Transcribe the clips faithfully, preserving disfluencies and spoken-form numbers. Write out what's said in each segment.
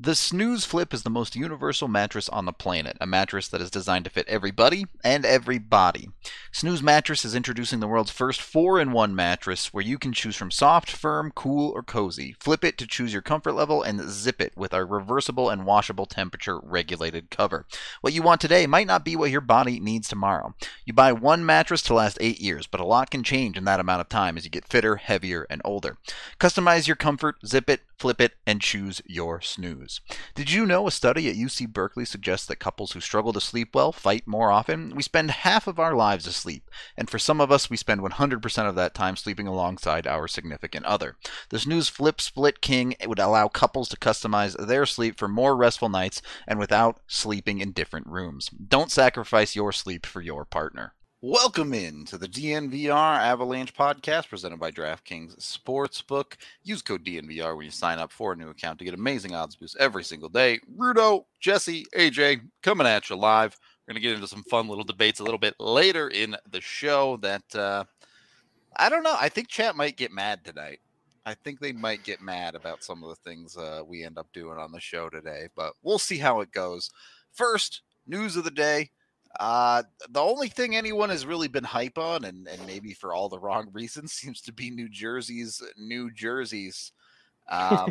The Snooze Flip is the most universal mattress on the planet, a mattress that is designed to fit everybody and every body. Snooze Mattress is introducing the world's first four in one mattress where you can choose from soft, firm, cool, or cozy. Flip it to choose your comfort level and zip it with our reversible and washable temperature regulated cover. What you want today might not be what your body needs tomorrow. You buy one mattress to last eight years, but a lot can change in that amount of time as you get fitter, heavier, and older. Customize your comfort, zip it, flip it, and choose your snooze. Did you know a study at U C Berkeley suggests that couples who struggle to sleep well fight more often? We spend half of our lives asleep, and for some of us, we spend one hundred percent of that time sleeping alongside our significant other. The Snooze Flip Split King would allow couples to customize their sleep for more restful nights and without sleeping in different rooms. Don't sacrifice your sleep for your partner. Welcome in to the D N V R Avalanche podcast presented by DraftKings Sportsbook. Use code D N V R when you sign up for a new account to get amazing odds boosts every single day. Rudo, Jesse, A J, coming at you live. We're going to get into some fun little debates a little bit later in the show that, uh, I don't know, I think chat might get mad tonight. I think they might get mad about some of the things uh, we end up doing on the show today, but we'll see how it goes. First, news of the day. Uh, the only thing anyone has really been hype on, and, and maybe for all the wrong reasons, seems to be New Jersey's New Jerseys. Um,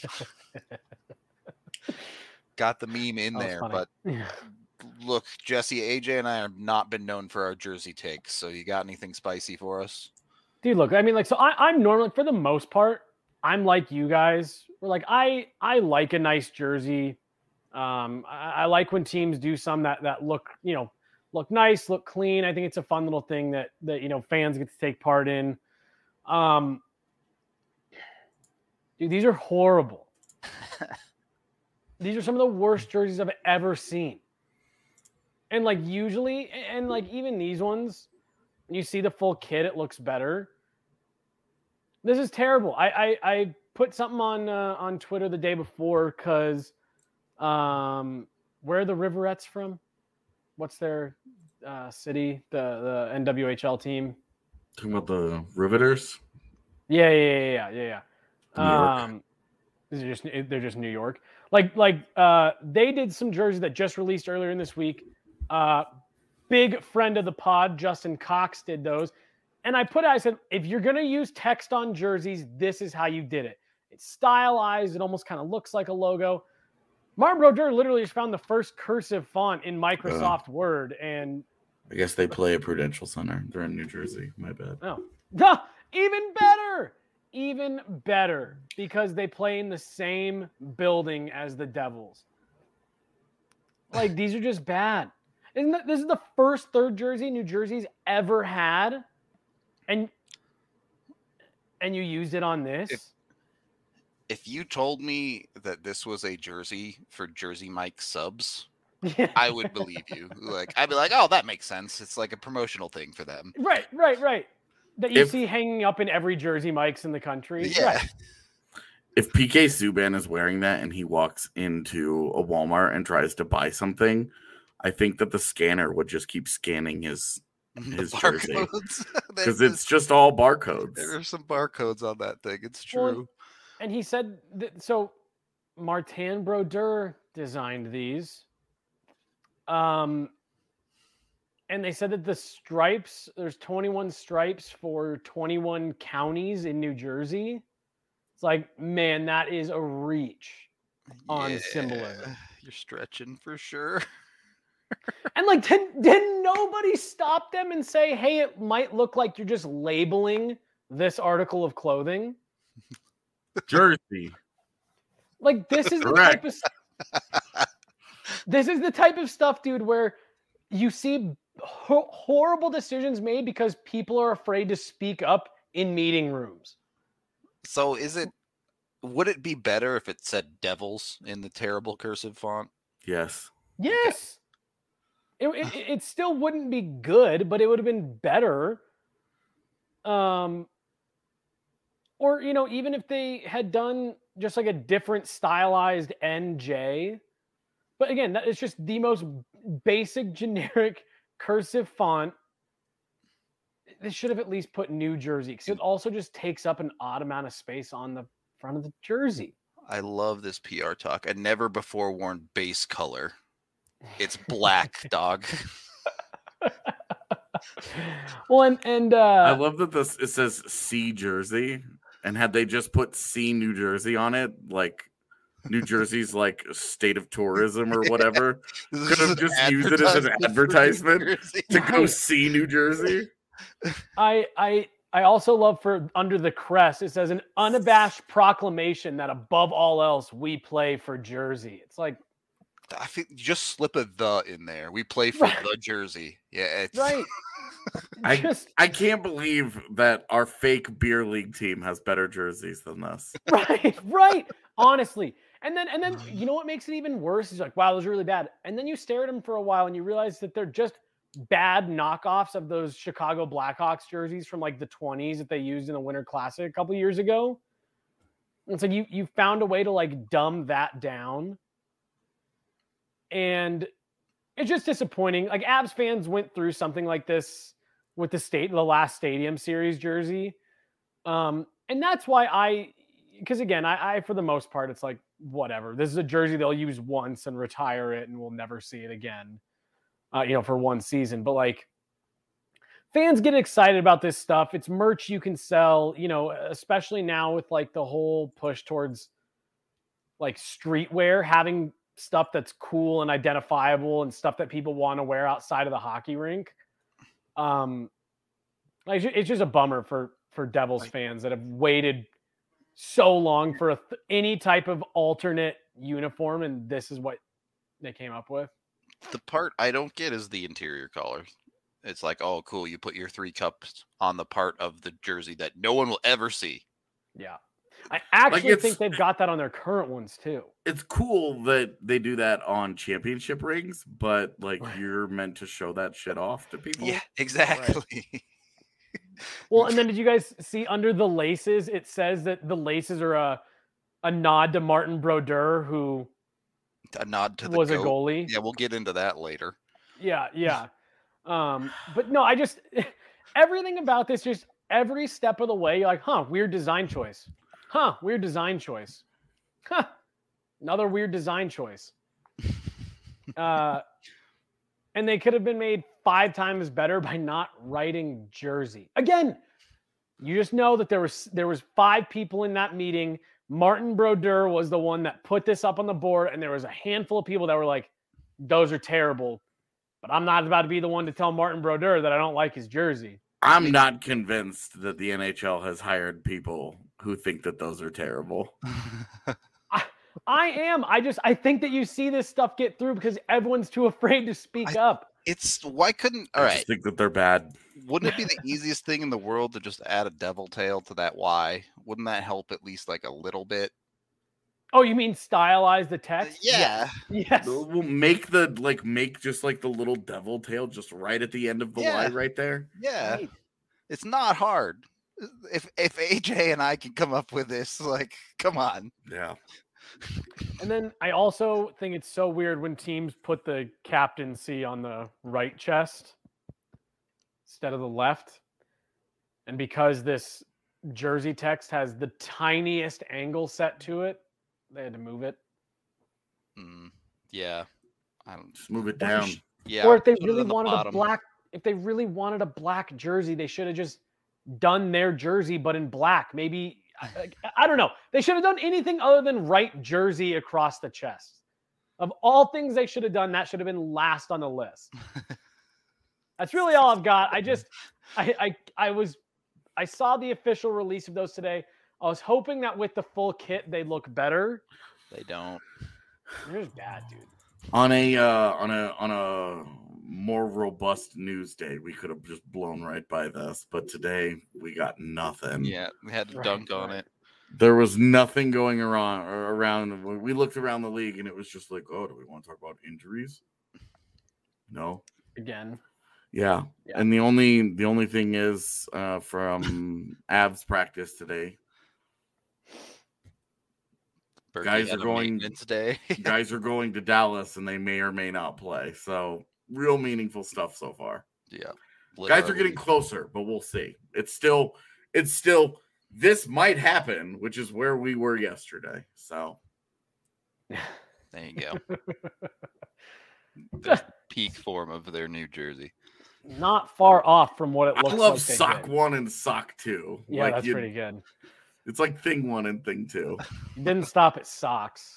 got the meme in there, but look, Jesse, A J, and I have not been known for our jersey takes. So you got anything spicy for us? Dude, look, I mean, like, so I, I'm normally, for the most part, I'm like you guys. We're like, I, I like a nice jersey. Um, I, I like when teams do some that, that look, you know, look nice, look clean. I think it's a fun little thing that, that, you know, fans get to take part in. Um, dude, these are horrible. These are some of the worst jerseys I've ever seen. And like usually, and like even these ones, when you see the full kit, it looks better. This is terrible. I, I, I put something on, uh, on Twitter the day before because, Um, where are the Riverettes from? What's their uh, city? The the N W H L team. Talking about the Riveters. Yeah, yeah, yeah, yeah, yeah. New York. Um, they're just they're just New York. Like like uh, they did some jerseys that just released earlier in this week. Uh, big friend of the pod, Justin Cox, did those, and I put it. I said, if you're gonna use text on jerseys, this is how you did it. It's stylized. It almost kind of looks like a logo. Martin Brodeur literally just found the first cursive font in Microsoft uh, Word, and I guess they play at Prudential Center. They're in New Jersey. My bad. Oh, Duh, even better, even better, because they play in the same building as the Devils. Like, these are just bad. Isn't that, this is the first third jersey New Jersey's ever had, and and you used it on this. If, if you told me that this was a jersey for Jersey Mike subs, Yeah. I would believe you. Like, I'd be like, oh, that makes sense. It's like a promotional thing for them. Right, right, right. That you If- see hanging up in every Jersey Mike's in the country. Yeah. Right. If P K Subban is wearing that and he walks into a Walmart and tries to buy something, I think that the scanner would just keep scanning his his The jersey barcodes. because There's- it's just all barcodes. There are some barcodes on that thing. It's Well, true. And he said that, so Martin Brodeur designed these. Um, and they said that the stripes, there's twenty-one stripes for twenty-one counties in New Jersey. It's like, man, that is a reach on Yeah, symbolism. You're stretching for sure. And like, did, did nobody stop them and say, hey, it might look like you're just labeling this article of clothing? Jersey. Like, this is the Correct. type of this is the type of stuff, dude, where you see ho- horrible decisions made because people are afraid to speak up in meeting rooms. So is it, would it be better if it said Devils in the terrible cursive font? Yes. Yes. It, it, it still wouldn't be good, but it would have been better. Um, or, you know, even if they had done just like a different stylized N J. But again, that is just the most basic, generic cursive font. They should have at least put New Jersey, because it also just takes up an odd amount of space on the front of the jersey. I love this P R talk. A never before worn base color. It's black, dog. Well, and and uh, I love that this it says C Jersey, and had they just put C New Jersey on it, like New Jersey's like state of tourism or whatever, This could is have an just used it as an advertisement for New advertisement Jersey. to go see New Jersey. I I I also love for under the crest it says an unabashed proclamation that above all else we play for Jersey. It's like I think you just slip a the in there. We play for Right. the Jersey. Yeah, it's right. I Just I can't believe that our fake beer league team has better jerseys than this. right, right. Honestly. And then and then you know what makes it even worse is like, wow, those are really bad. And then you stare at them for a while and you realize that they're just bad knockoffs of those Chicago Blackhawks jerseys from like the twenties that they used in the Winter Classic a couple years ago. And so you you found a way to like dumb that down. And it's just disappointing. Like Avs fans went through something like this with the state, the last Stadium Series jersey. Um, and that's why I, because again, I, I, for the most part, it's like, whatever. This is a jersey they'll use once and retire it and we'll never see it again, uh, you know, for one season. But like, fans get excited about this stuff. It's merch you can sell, you know, especially now with like the whole push towards like streetwear, having stuff that's cool and identifiable and stuff that people want to wear outside of the hockey rink. Um, like it's just a bummer for for Devils fans that have waited so long for a th- any type of alternate uniform, and this is what they came up with. the part I don't get is the interior color. It's like, oh, cool, you put your three cups on the part of the jersey that no one will ever see. Yeah. I actually it's- think they've got that on their current ones too. It's cool that they do that on championship rings, but like Right. you're meant to show that shit off to people. Yeah, exactly. Well, and then did you guys see under the laces? It says that the laces are a a nod to Martin Brodeur, who A nod to the was a goat. goalie. Yeah, we'll get into that later. Yeah, yeah. Um, but no, I just everything about this, just every step of the way, you're like, huh, weird design choice. Huh, weird design choice. Huh, another weird design choice. Uh, and they could have been made five times better by not writing Jersey. Again, you just know that there was there was five people in that meeting. Martin Brodeur was the one that put this up on the board, and there was a handful of people that were like, those are terrible. But I'm not about to be the one to tell Martin Brodeur that I don't like his jersey. I'm not convinced that the N H L has hired people who think that those are terrible. I, I am. I just I think that you see this stuff get through because everyone's too afraid to speak I- up. It's why couldn't all I right? just think that they're bad. Wouldn't it be the easiest thing in the world to just add a devil tail to that Y? Wouldn't that help at least like a little bit? Oh, you mean stylize the text? Yeah. Yes. We'll make the like make just like the little devil tail just right at the end of the Yeah. Y right there. Yeah. Right. It's not hard. If if A J and I can come up with this, like, come on. Yeah. And then I also think it's so weird when teams put the captaincy on the right chest instead of the left. And because this jersey text has the tiniest angle set to it, they had to move it. Mm, yeah. I don't Just move it Or down. sh- yeah. or if they put it really on the wanted a bottom. black, if they really wanted a black jersey, they should have just done their jersey, but in black. Maybe I, I don't know. They should have done anything other than write jersey across the chest. Of all things they should have done, that should have been last on the list. That's really all I've got. I just, I, I, I was, I saw the official release of those today. I was hoping that with the full kit they'd look better. They don't. They're just bad, dude. On a uh, on a on a more robust news day, we could have just blown right by this, but today we got nothing. Yeah, we had to Right, dunk on right. it. There was nothing going around or around. We looked around the league and it was just like, oh, do we want to talk about injuries? No. Again. Yeah. Yeah. And the only the only thing is uh, from Avs practice today, Berkey Guys had are a going- maintenance day. guys are going to Dallas and they may or may not play. So real meaningful stuff so far. Yeah. Guys are literally. getting closer, but we'll see. It's still it's still this might happen, which is where we were yesterday. So there you go. There's the peak form of their New Jersey. Not far off from what it looks I love like they sock did. one and sock two. Yeah, like that's you, pretty good. It's like thing one and thing two. You didn't stop at socks.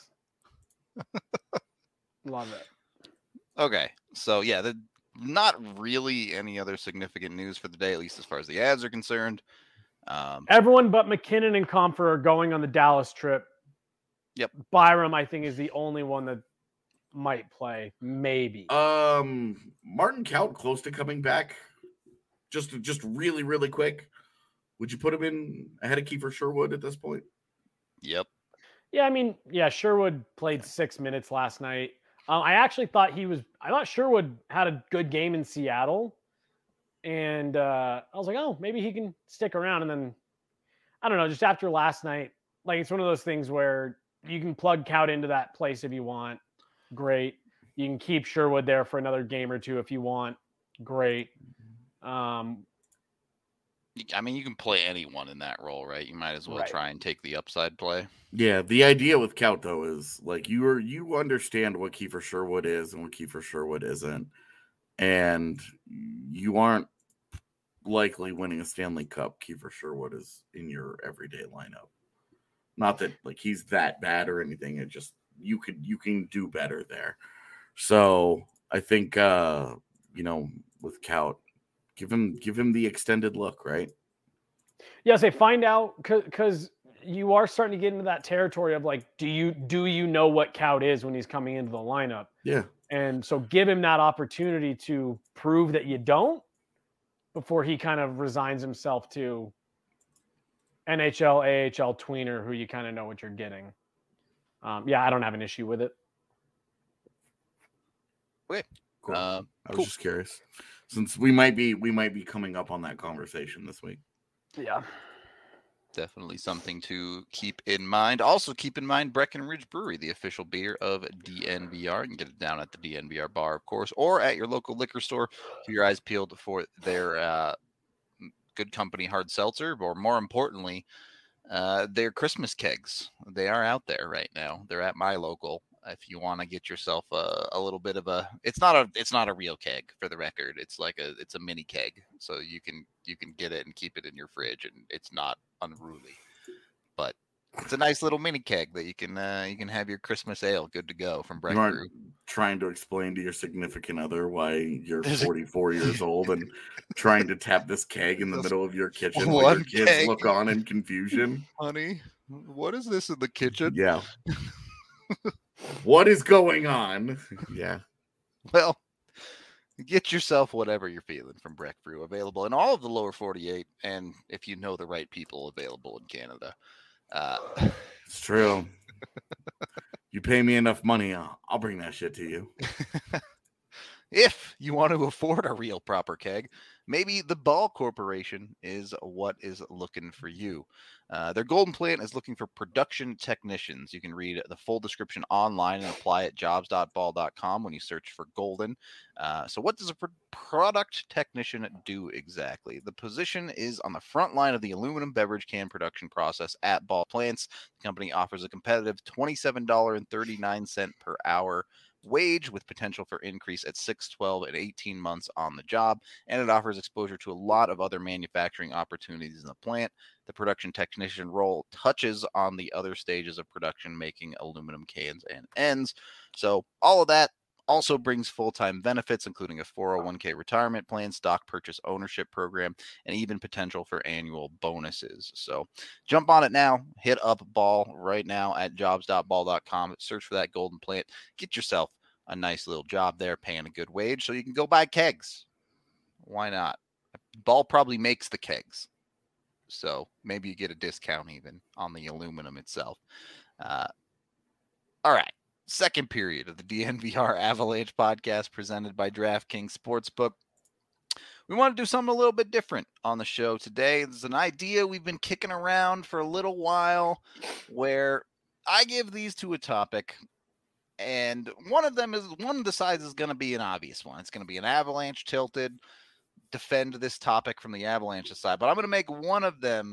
Love it. Okay, so yeah, the, not really any other significant news for the day, at least as far as the ads are concerned. Um, Everyone but McKinnon and Comfer are going on the Dallas trip. Yep. Byram, I think, is the only one that might play. Maybe. Um, Martin Kaut close to coming back. Just, just really, really quick. Would you put him in ahead of Kiefer Sherwood at this point? Yep. Yeah, I mean, yeah, Sherwood played six minutes last night. Um, I actually thought he was. I thought Sherwood had a good game in Seattle, and uh, I was like, oh, maybe he can stick around. And then I don't know, just after last night, like it's one of those things where you can plug Kaut into that place if you want. Great. You can keep Sherwood there for another game or two if you want. Great. Um, I mean, you can play anyone in that role, right? You might as well Right. try and take the upside play. Yeah, the idea with Kaut though is like you are you understand what Kiefer Sherwood is and what Kiefer Sherwood isn't, and you aren't likely winning a Stanley Cup. Kiefer Sherwood is in your everyday lineup. Not that like he's that bad or anything. It just you could you can do better there. So I think uh, you know with Kaut, give him give him the extended look, right? Yeah, say find out because you are starting to get into that territory of like, do you do you know what Kaut is when he's coming into the lineup? Yeah. And so give him that opportunity to prove that you don't before he kind of resigns himself to N H L, A H L tweener who you kind of know what you're getting. Um, yeah, I don't have an issue with it. Wait, Cool. Uh, I was cool. just curious, since we might be we might be coming up on that conversation this week. Yeah. Definitely something to keep in mind. Also, keep in mind Breckenridge Brewery, the official beer of D N V R. You can get it down at the D N V R bar, of course, or at your local liquor store. Keep your eyes peeled for their uh, Good Company hard seltzer, or more importantly, uh, their Christmas kegs. They are out there right now. They're at my local. If you want to get yourself a, a little bit of a, it's not a, it's not a real keg for the record. It's like a, it's a mini keg, so you can you can get it and keep it in your fridge, and it's not unruly. But it's a nice little mini keg that you can uh, you can have your Christmas ale good to go from Breck You aren't Brew. trying to explain to your significant other why you're There's a- forty-four years old and trying to tap this keg in the Just middle of your kitchen while one your kids keg. look on in confusion. Honey, what is this in the kitchen? Yeah. What is going on? Yeah. Well, get yourself whatever you're feeling from Breck Brew, available in all of the lower forty-eight, and if you know the right people, available in Canada. Uh, It's true. You pay me enough money, I'll, I'll bring that shit to you. If you want to afford a real proper keg, maybe the Ball Corporation is what is looking for you. Uh, their Golden Plant is looking for production technicians. You can read the full description online and apply at jobs dot ball dot com when you search for Golden. Uh, so what does a pr- product technician do exactly? The position is on the front line of the aluminum beverage can production process at Ball Plants. The company offers a competitive twenty-seven dollars and thirty-nine cents per hour wage with potential for increase at six, twelve, and eighteen months on the job, and it offers exposure to a lot of other manufacturing opportunities in the plant. The production technician role touches on the other stages of production, making aluminum cans and ends. So all of that also brings full-time benefits, including a four oh one k retirement plan, stock purchase ownership program, and even potential for annual bonuses. So jump on it now. Hit up Ball right now at jobs dot ball dot com. Search for that Golden Plant. Get yourself a nice little job there, paying a good wage, so you can go buy kegs. Why not? Ball probably makes the kegs, so maybe you get a discount even on the aluminum itself. Uh, all right. Second period of the D N V R Avalanche podcast presented by DraftKings Sportsbook. We want to do something a little bit different on the show today. There's an idea we've been kicking around for a little while where I give these two a topic, and one of them is one of the sides is going to be an obvious one. It's going to be an Avalanche tilted, defend this topic from the Avalanche side, but I'm going to make one of them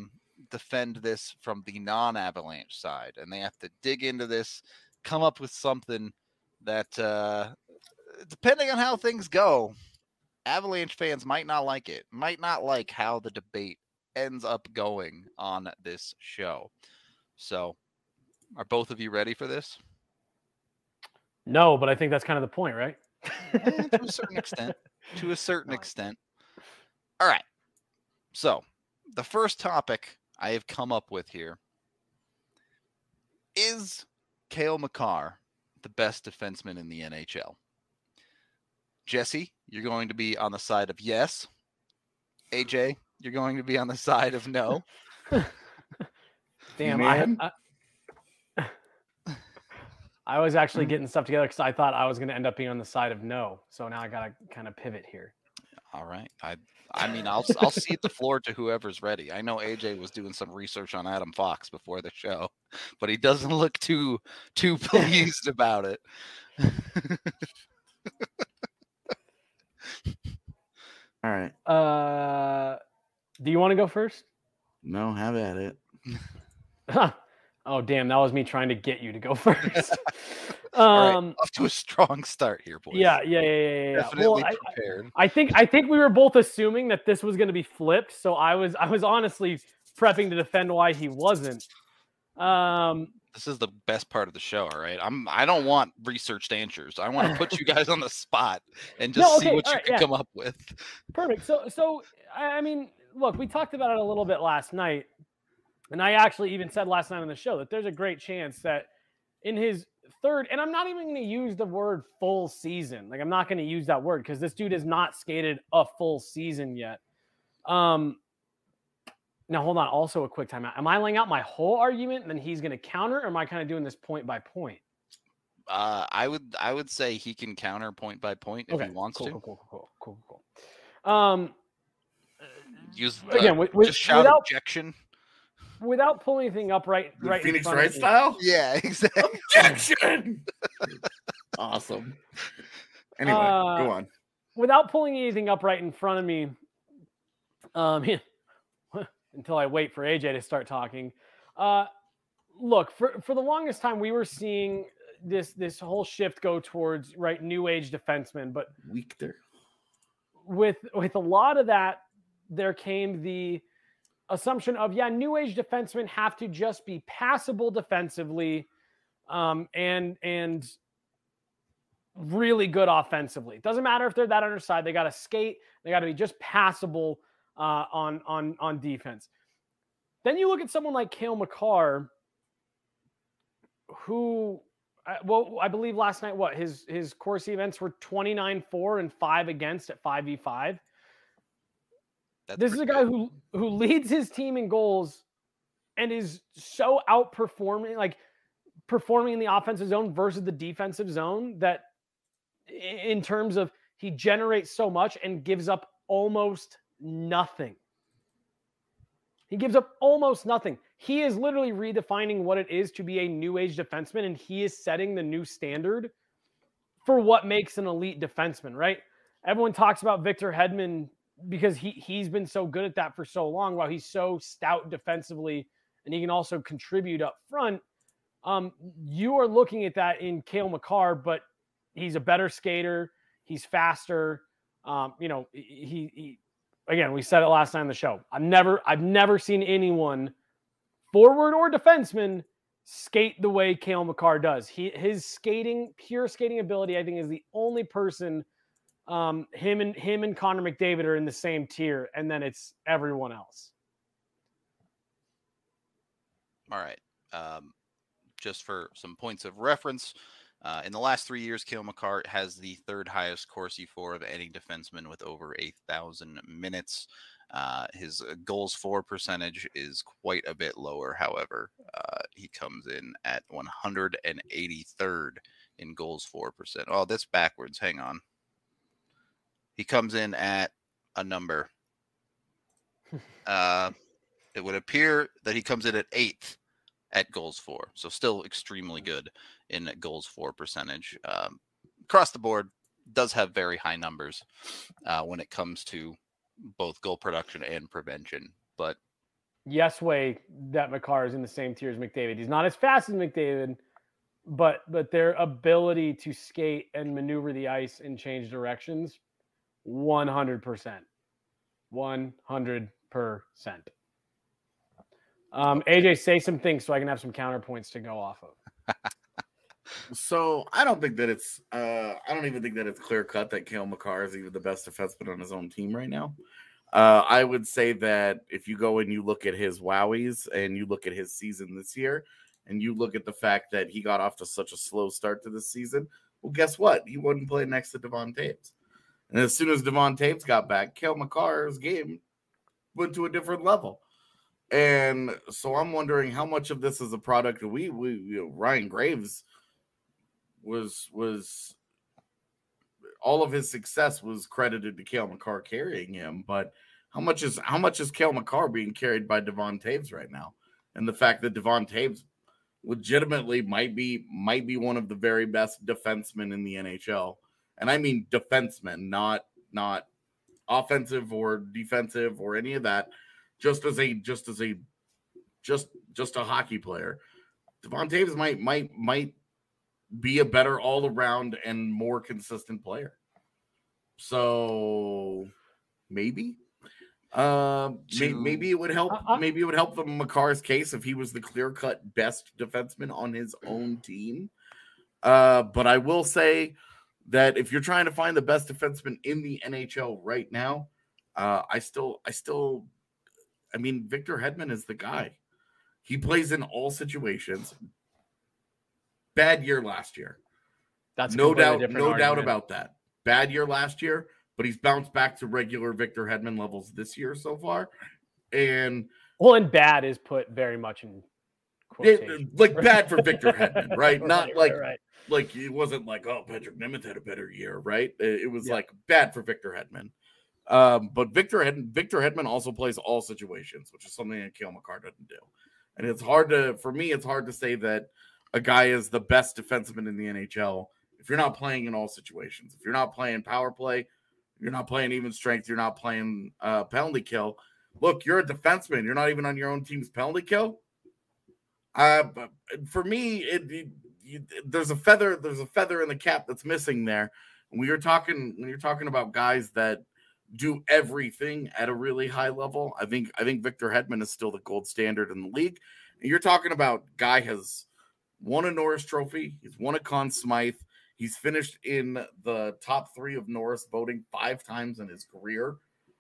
defend this from the non-Avalanche side, and they have to dig into this, come up with something that, uh, depending on how things go, Avalanche fans might not like it, might not like how the debate ends up going on this show. So, are both of you ready for this? No, but I think that's kind of the point, right? eh, to a certain extent. To a certain All right. extent. All right. So, the first topic I have come up with here is Cale Makar the best defenseman in the N H L? Jesse, you're going to be on the side of yes. A J, you're going to be on the side of no. Damn, I, I, I was actually getting stuff together because I thought I was going to end up being on the side of no. So now I got to kind of pivot here. All right. I I mean, I'll I'll cede the floor to whoever's ready. I know A J was doing some research on Adam Fox before the show, but he doesn't look too too pleased about it. All right. Uh, do you want to go first? No, have at it. Oh, damn. That was me trying to get you to go first. um, All right, off to a strong start here, boys. Yeah, yeah, yeah, yeah. yeah. Definitely well, prepared. I, I think I think we were both assuming that this was going to be flipped, so I was I was honestly prepping to defend why he wasn't. Um, this is the best part of the show, all right? I'm I don't want researched answers. I want to put you guys on the spot and just no, okay, see what you right, can yeah. come up with. Perfect. So so I mean, look, we talked about it a little bit last night. And I actually even said last night on the show that there's a great chance that in his third, and I'm not even going to use the word full season. Like, I'm not going to use that word because this dude has not skated a full season yet. Um, now, hold on. Also, a quick timeout. Am I laying out my whole argument and then he's going to counter, or am I kind of doing this point by point? Uh, I would I would say he can counter point by point if okay. he wants cool, to. Cool, cool, cool, cool, cool, cool. Um, Use uh, again, with, with, just shout without, objection. Without pulling anything up right, The right Phoenix in front Wright of me. style? Yeah, exactly. Objection! Awesome. Anyway, Uh, go on. Without pulling anything up right in front of me, um, until I wait for A J to start talking. Uh, look, for, for the longest time, we were seeing this this whole shift go towards right new age defensemen, but Weak there. with with a lot of that, there came the assumption of yeah, new age defensemen have to just be passable defensively, um, and and really good offensively. It doesn't matter if they're that underside; they got to skate. They got to be just passable uh, on on on defense. Then you look at someone like Cale Makar, who, well, I believe last night, what his his Corsi events were twenty-nine four and five against at five v five. That's this is a guy good. who who leads his team in goals and is so outperforming, like performing in the offensive zone versus the defensive zone, that in terms of he generates so much and gives up almost nothing. He gives up almost nothing. He is literally redefining what it is to be a new age defenseman, and he is setting the new standard for what makes an elite defenseman, right? Everyone talks about Victor Hedman because he, he's been so good at that for so long, while he's so stout defensively and he can also contribute up front. Um, you are looking at that in Cale Makar, but he's a better skater. He's faster. Um, you know, he, he, again, we said it last night on the show. I've never, I've never seen anyone, forward or defenseman, skate the way Cale Makar does. He, his skating, pure skating ability, I think, is the only person. Um, him and him and Connor McDavid are in the same tier, and then it's everyone else. All right. Um, just for some points of reference, uh, in the last three years, Cale Makar has the third highest Corsi for of any defenseman with over a thousand minutes. Uh, his goals for percentage is quite a bit lower. However, uh, he comes in at one hundred eighty-third in goals for percent. Oh, that's backwards. Hang on. He comes in at a number. Uh, it would appear that he comes in at eighth at goals for. So still extremely good in goals for percentage. Um, across the board, does have very high numbers uh, when it comes to both goal production and prevention. But yes way that Makar is in the same tier as McDavid. He's not as fast as McDavid, but but their ability to skate and maneuver the ice and change directions, one hundred percent. one hundred percent. Um, A J, say some things so I can have some counterpoints to go off of. So I don't think that it's uh, I don't even think that it's clear cut that Cale Makar is even the best defenseman on his own team right now. Uh, I would say that if you go and you look at his wowies and you look at his season this year, and you look at the fact that he got off to such a slow start to this season, well, guess what? He wouldn't play next to Devon Toews. And as soon as Devon Toews got back, Cale Makar's game went to a different level. And so I'm wondering how much of this is a product of we, we you know, Ryan Graves was was all of his success was credited to Cale Makar carrying him, but how much is how much is Cale Makar being carried by Devon Toews right now? And the fact that Devon Toews legitimately might be might be one of the very best defensemen in the N H L. And I mean defensemen, not not offensive or defensive or any of that. Just as a just as a just just a hockey player. Devon Toews might might might be a better all-around and more consistent player. So maybe. Uh, To- maybe it would help. Uh, uh, Maybe it would help the Makar's case if he was the clear-cut best defenseman on his own team. Uh, but I will say that if you're trying to find the best defenseman in the N H L right now, uh, I still, I still, I mean, Victor Hedman is the guy. He plays in all situations. Bad year last year. That's a no completely doubt, different no doubt argument. about that. Bad year last year, but he's bounced back to regular Victor Hedman levels this year so far. And Well, and bad is put very much in quotation. it, like bad for Victor Hedman, right? Not Right, like right, right. like it wasn't like, oh, Patrick Nemeth had a better year, right? It, it was Yeah. like bad for Victor Hedman. Um, but Victor Hedman, Victor Hedman also plays all situations, which is something that Cale Makar doesn't do. And it's hard to, for me, it's hard to say that a guy is the best defenseman in the N H L if you're not playing in all situations. If you're not playing power play, you're not playing even strength, you're not playing uh, penalty kill. Look, you're a defenseman. You're not even on your own team's penalty kill. Uh, but for me, it, it you, there's a feather. There's a feather in the cap that's missing there. When you're talking, when you're talking about guys that do everything at a really high level, I think I think Victor Hedman is still the gold standard in the league. And you're talking about guy has won a Norris Trophy. He's won a Conn Smythe. He's finished in the top three of Norris voting five times in his career.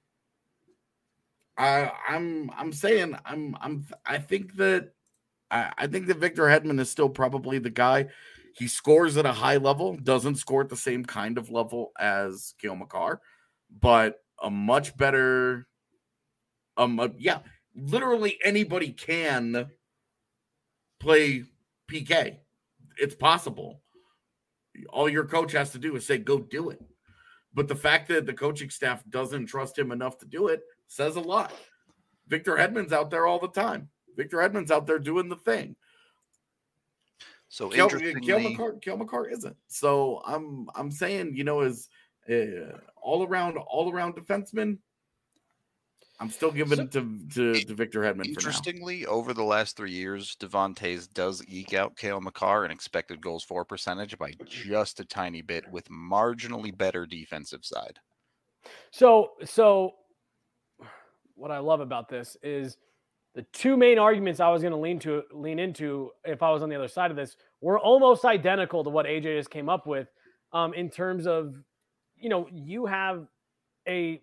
I, I'm I'm saying I'm I'm I think that I, I think that Victor Hedman is still probably the guy. He scores at a high level, doesn't score at the same kind of level as Cale Makar, but a much better. Um, uh, yeah, literally anybody can play P K. It's possible. All your coach has to do is say, go do it. But the fact that the coaching staff doesn't trust him enough to do it says a lot. Victor Hedman's out there all the time. Victor Hedman's out there doing the thing. So Cale, interestingly, Cale Makar, Cale Makar isn't. So I'm I'm saying, you know, as uh, all around all around defenseman, I'm still giving it to, to, to Victor Hedman for now. Interestingly, over the last three years, Devon Toews does eke out Cale Makar in expected goals for percentage by just a tiny bit, with marginally better defensive side. So, so what I love about this is the two main arguments I was going to lean to lean into if I was on the other side of this were almost identical to what A J just came up with, um, in terms of, you know, you have a.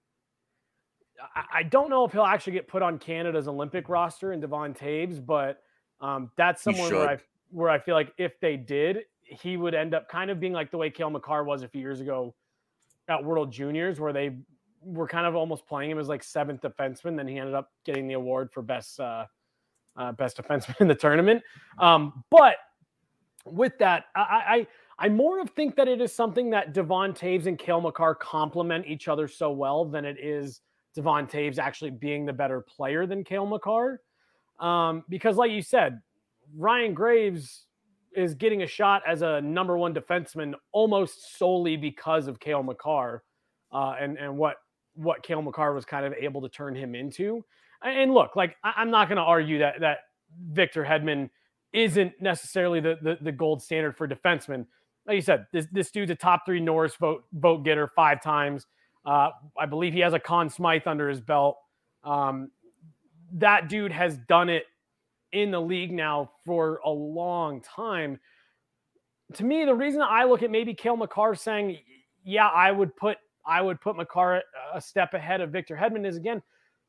I don't know if he'll actually get put on Canada's Olympic roster in Devon Toews, but um, that's someone where I where I feel like if they did, he would end up kind of being like the way Cale Makar was a few years ago at World Juniors, where they were kind of almost playing him as like seventh defenseman. Then he ended up getting the award for best uh, uh, best defenseman in the tournament. Um, but with that, I, I I more of think that it is something that Devon Toews and Cale Makar complement each other so well than it is Devon Toews actually being the better player than Cale Makar. Um, because like you said, Ryan Graves is getting a shot as a number one defenseman almost solely because of Cale Makar uh, and, and what, what Cale Makar was kind of able to turn him into. And look, like I, I'm not going to argue that that Victor Hedman isn't necessarily the, the the gold standard for defensemen. Like you said, this this dude's a top three Norris vote vote getter five times. Uh, I believe he has a Conn Smythe under his belt. Um, that dude has done it in the league now for a long time. To me, the reason I look at maybe Cale Makar saying, yeah, I would put I would put Makar a step ahead of Victor Hedman is, again,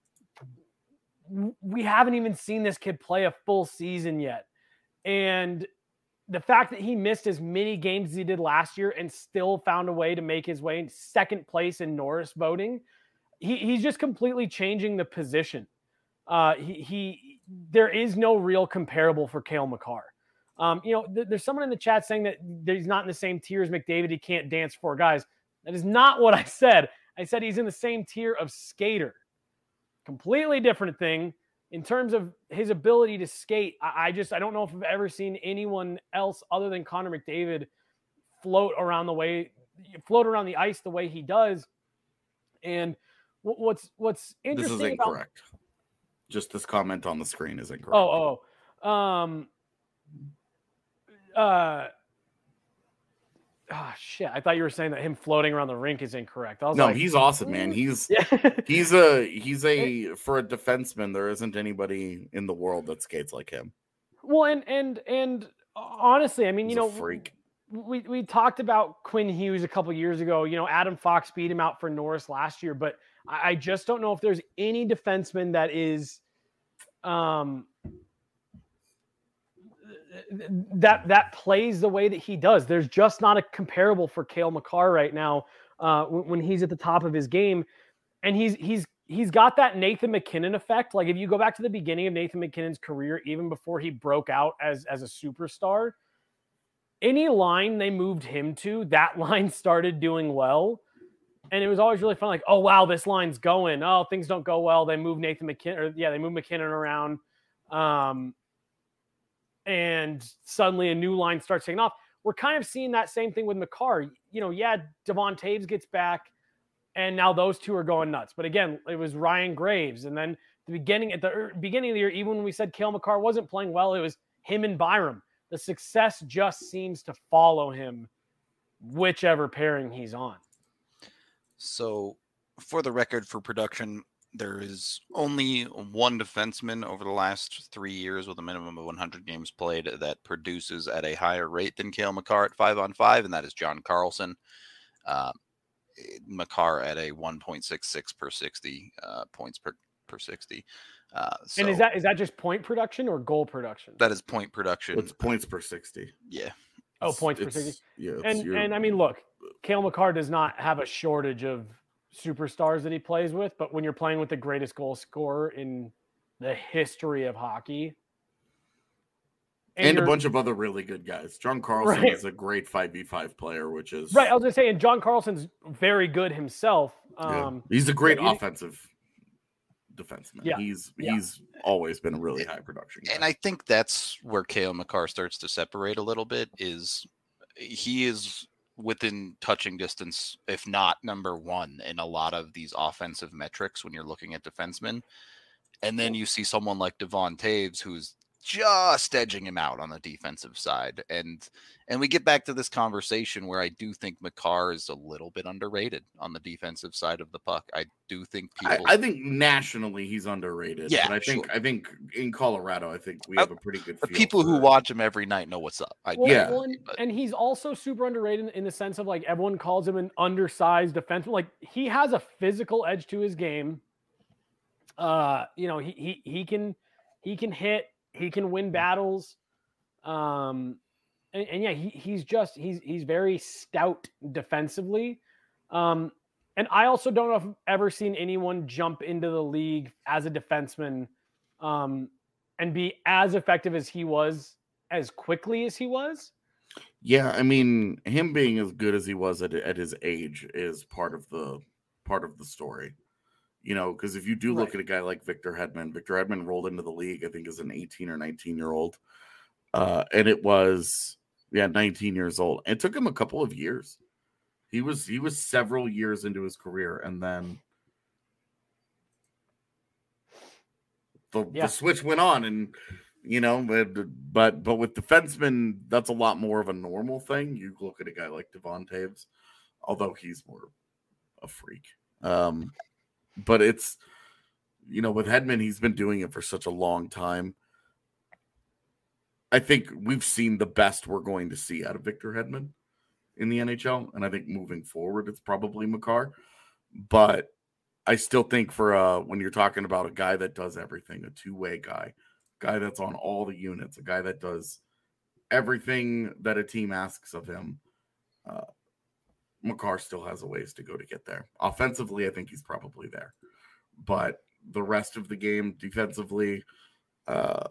we haven't even seen this kid play a full season yet. And the fact that he missed as many games as he did last year and still found a way to make his way in second place in Norris voting, he, he's just completely changing the position. Uh, he, he, there is no real comparable for Cale Makar. Um, you know, th- there's someone in the chat saying that he's not in the same tier as McDavid. He can't dance for guys. That is not what I said. I said he's in the same tier of skater. Completely different thing. In terms of his ability to skate, I, I just I don't know if I've ever seen anyone else other than Connor McDavid float around the way float around the ice the way he does. And what's what's interesting? This is incorrect. About, just this comment on the screen is incorrect. Oh, oh, um, uh. Oh shit! I thought you were saying that him floating around the rink is incorrect. I was no, like, he's awesome, man. He's he's a he's a for a defenseman. There isn't anybody in the world that skates like him. Well, and and and honestly, I mean, he's you know, a freak. We we talked about Quinn Hughes a couple years ago. You know, Adam Fox beat him out for Norris last year, but I, I just don't know if there's any defenseman that is, um. that that plays the way that he does. There's just not a comparable for Cale Makar right now uh, when, when he's at the top of his game. And he's he's he's got that Nathan MacKinnon effect. Like if you go back to the beginning of Nathan MacKinnon's career, even before he broke out as, as a superstar, any line they moved him to, that line started doing well. And it was always really fun. Like, oh, wow, this line's going. Oh, things don't go well. They move Nathan MacKinnon. Or, yeah, they move MacKinnon around. Um, and suddenly a new line starts taking off. We're kind of seeing that same thing with Makar. You know, yeah, Devon Taves gets back, and now those two are going nuts. But again, it was Ryan Graves. And then the beginning at the beginning of the year, even when we said Cale Makar wasn't playing well, it was him and Byram. The success just seems to follow him, whichever pairing he's on. So, for the record, for production, there is only one defenseman over the last three years with a minimum of one hundred games played that produces at a higher rate than Cale Makar at five on five, and that is John Carlson. Uh, Makar at a one point six six per sixty uh, points per, per sixty. Uh, so and is that is that just point production or goal production? That is point production. It's points per sixty. Yeah. Oh, it's, points per sixty. Yeah. And your... and I mean, look, Cale Makar does not have a shortage of superstars that he plays with, but when you're playing with the greatest goal scorer in the history of hockey, and, and a bunch of other really good guys, John Carlson right. is a great five v five player, which is right. I was gonna say, and John Carlson's very good himself. Yeah. Um, he's a great yeah, offensive defenseman. Yeah. He's yeah. he's always been a really high production guy. And I think that's where Cale Makar starts to separate a little bit. Is he is within touching distance, if not number one in a lot of these offensive metrics when you're looking at defensemen. And then you see someone like Devon Taves, who's just edging him out on the defensive side. And and we get back to this conversation where I do think Makar is a little bit underrated on the defensive side of the puck. I do think people I, I think nationally he's underrated. Yeah, but I think sure. I think in Colorado, I think we have a pretty good the feel people who it. watch him every night know what's up. I well, yeah. Well, and, and he's also super underrated in the sense of like everyone calls him an undersized defenseman. Like he has a physical edge to his game. Uh, you know, he he he can he can hit. He can win battles. Um, and, and yeah, he, he's just, he's, he's very stout defensively. Um, and I also don't know if I've ever seen anyone jump into the league as a defenseman um, and be as effective as he was, as quickly as he was. Yeah. I mean, him being as good as he was at, at his age is part of the, part of the story. You know, because if you do look right. at a guy like Victor Hedman, Victor Hedman rolled into the league, I think, as an eighteen or nineteen year old. Uh, and it was, yeah, nineteen years old. It took him a couple of years. He was, he was several years into his career. And then the, Yeah. the switch went on, and you know, but, but but with defensemen, that's a lot more of a normal thing. You look at a guy like Devon Taves, although he's more a freak. Um, but it's, you know, with Hedman, he's been doing it for such a long time. I think we've seen the best we're going to see out of Victor Hedman in the N H L, and I think moving forward, it's probably Makar. But I still think for uh, when you're talking about a guy that does everything, a two-way guy, guy that's on all the units, a guy that does everything that a team asks of him, uh, Makar still has a ways to go to get there. Offensively, I think he's probably there. But the rest of the game, defensively, uh,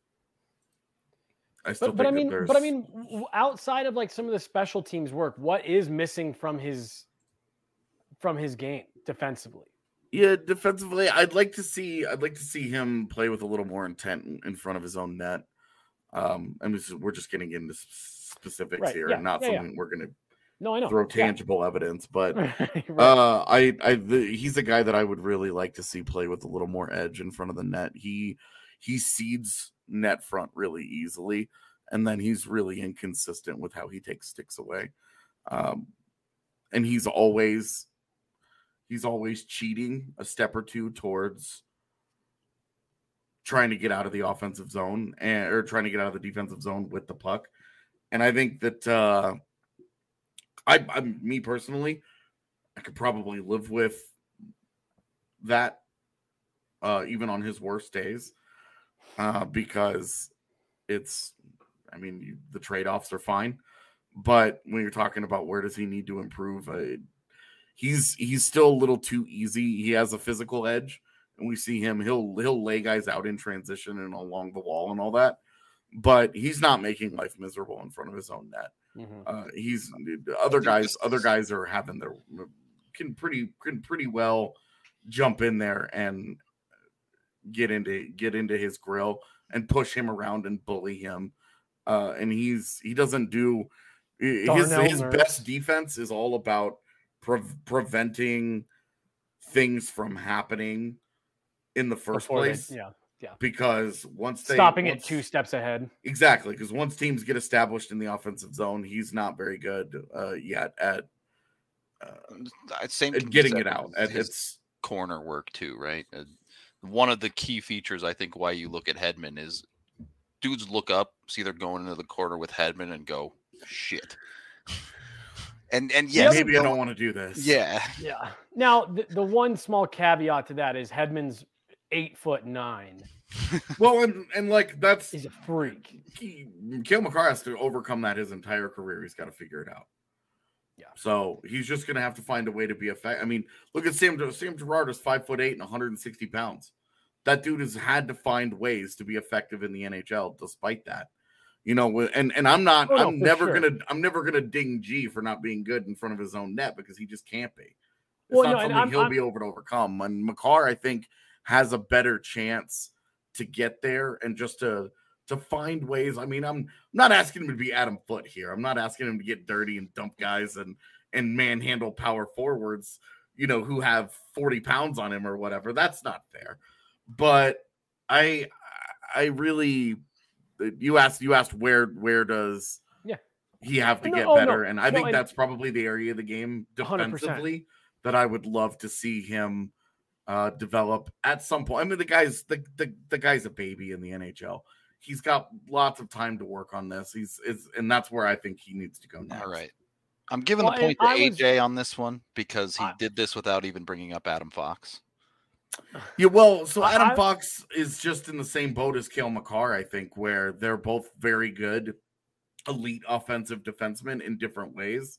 I still but, but I think mean, that but I mean, outside of like some of the special teams work, what is missing from his from his game defensively? Yeah, defensively, I'd like to see. I'd like to see him play with a little more intent in, in front of his own net. Um, I mean, we're just getting into specifics right, here, yeah, and not yeah, something yeah. we're going to no, I know. throw tangible yeah. evidence. But right. uh, I, I, the, he's a guy that I would really like to see play with a little more edge in front of the net. He, he seeds net front really easily, and then he's really inconsistent with how he takes sticks away. Um, and he's always. He's always cheating a step or two towards trying to get out of the offensive zone and or trying to get out of the defensive zone with the puck. And I think that uh, I, I, me personally, I could probably live with that uh, even on his worst days uh, because it's, I mean, you, the trade-offs are fine. But when you're talking about where does he need to improve, I, He's he's still a little too easy. He has a physical edge, and we see him. He'll he'll lay guys out in transition and along the wall and all that, but he's not making life miserable in front of his own net. Mm-hmm. Uh, he's other guys. Other guys are having their can pretty can pretty well jump in there and get into get into his grill and push him around and bully him. Uh, and he's he doesn't do his his best defense is all about. Pre- preventing things from happening in the first Before place. They, yeah, yeah. Because once they stopping once, it two steps ahead. Exactly. Because once teams get established in the offensive zone, he's not very good uh, yet at uh, same at getting it out. At his its corner work too, right? Uh, one of the key features, I think, why you look at Hedman is dudes look up, see they're going into the corner with Hedman, and go, "Shit." And and yes, maybe I don't want to do this. Yeah, yeah. Now the, the one small caveat to that is Hedman's eight foot nine. Well, and and like that's he's a freak. He, Cale Makar has to overcome that his entire career. He's got to figure it out. Yeah. So he's just gonna have to find a way to be effective. I mean, look at Sam. Sam Girard is five foot eight and one hundred sixty pounds. That dude has had to find ways to be effective in the N H L, despite that. You know, and and I'm not. Oh, no, I'm never sure. gonna. I'm never gonna ding G for not being good in front of his own net because he just can't be. It's well, not no, something I'm, he'll I'm, be able to overcome. And Makar, I think, has a better chance to get there and just to to find ways. I mean, I'm not asking him to be Adam Foote here. I'm not asking him to get dirty and dump guys and and manhandle power forwards, you know, who have forty pounds on him or whatever. That's not fair. But I I really. You asked. You asked where. Where does yeah. he have to no, get oh, better? no. And I no, think and, that's probably the area of the game defensively one hundred percent. that I would love to see him uh, develop at some point. I mean, the guy's the, the the guy's a baby in the N H L. He's got lots of time to work on this. He's is, and that's where I think he needs to go next. All right. I'm giving well, the point to I A J was, on this one because he I, did this without even bringing up Adam Fox. Yeah, well, so Adam I, Fox is just in the same boat as Cale Makar, I think, where they're both very good, elite offensive defensemen in different ways.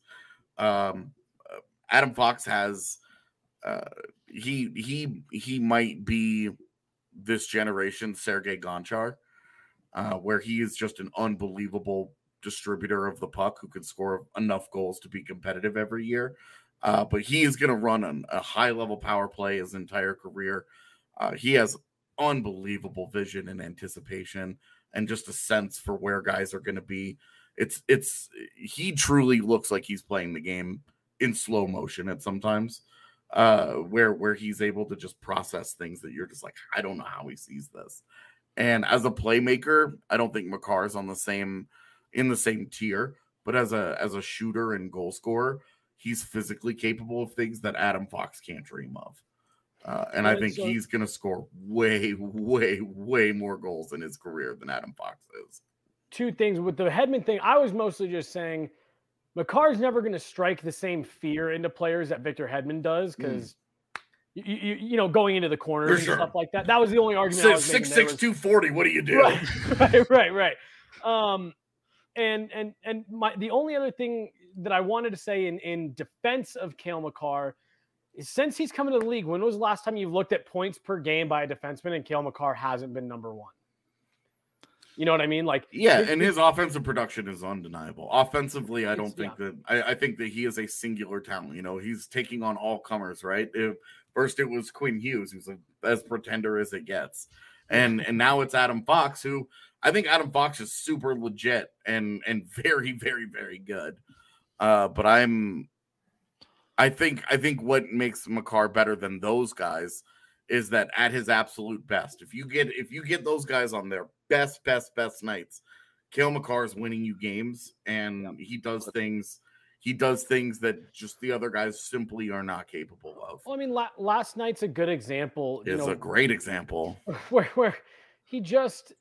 Um, Adam Fox has uh, he he he might be this generation's Sergei Gonchar, uh, where he is just an unbelievable distributor of the puck who can score enough goals to be competitive every year. Uh, but he is going to run an, a high-level power play his entire career. Uh, he has unbelievable vision and anticipation and just a sense for where guys are going to be. It's it's he truly looks like he's playing the game in slow motion at sometimes. uh, where where he's able to just process things that you're just like, I don't know how he sees this. And as a playmaker, I don't think Makar's on the same in the same tier, but as a as a shooter and goal scorer, he's physically capable of things that Adam Fox can't dream of. Uh, and I think so, he's going to score way, way, way more goals in his career than Adam Fox is. Two things with the Hedman thing. I was mostly just saying Makar's never going to strike the same fear into players that Victor Hedman does because, mm. you, you, you know, going into the corners For and sure. stuff like that. That was the only argument. Six, I was six, six, was, two forty. What do you do? Right, right, right. right. Um, and and and my the only other thing that I wanted to say in in defense of Cale Makar is since he's come into the league, when was the last time you've looked at points per game by a defenseman and Cale Makar hasn't been number one? You know what I mean? Like, yeah, and his offensive production is undeniable. Offensively, I don't think yeah. that I, I think that he is a singular talent. You know, he's taking on all comers, right? If, first it was Quinn Hughes, who's a, as pretender as it gets. And and now it's Adam Fox, who I think Adam Fox is super legit and and very, very, very good. Uh, but I'm I think I think what makes Makar better than those guys is that at his absolute best, if you get if you get those guys on their best, best, best nights, Cale Makar is winning you games, and yeah. he does things. He does things that just the other guys simply are not capable of. Well, I mean, la- last night's a good example. It's know, a great example where where he just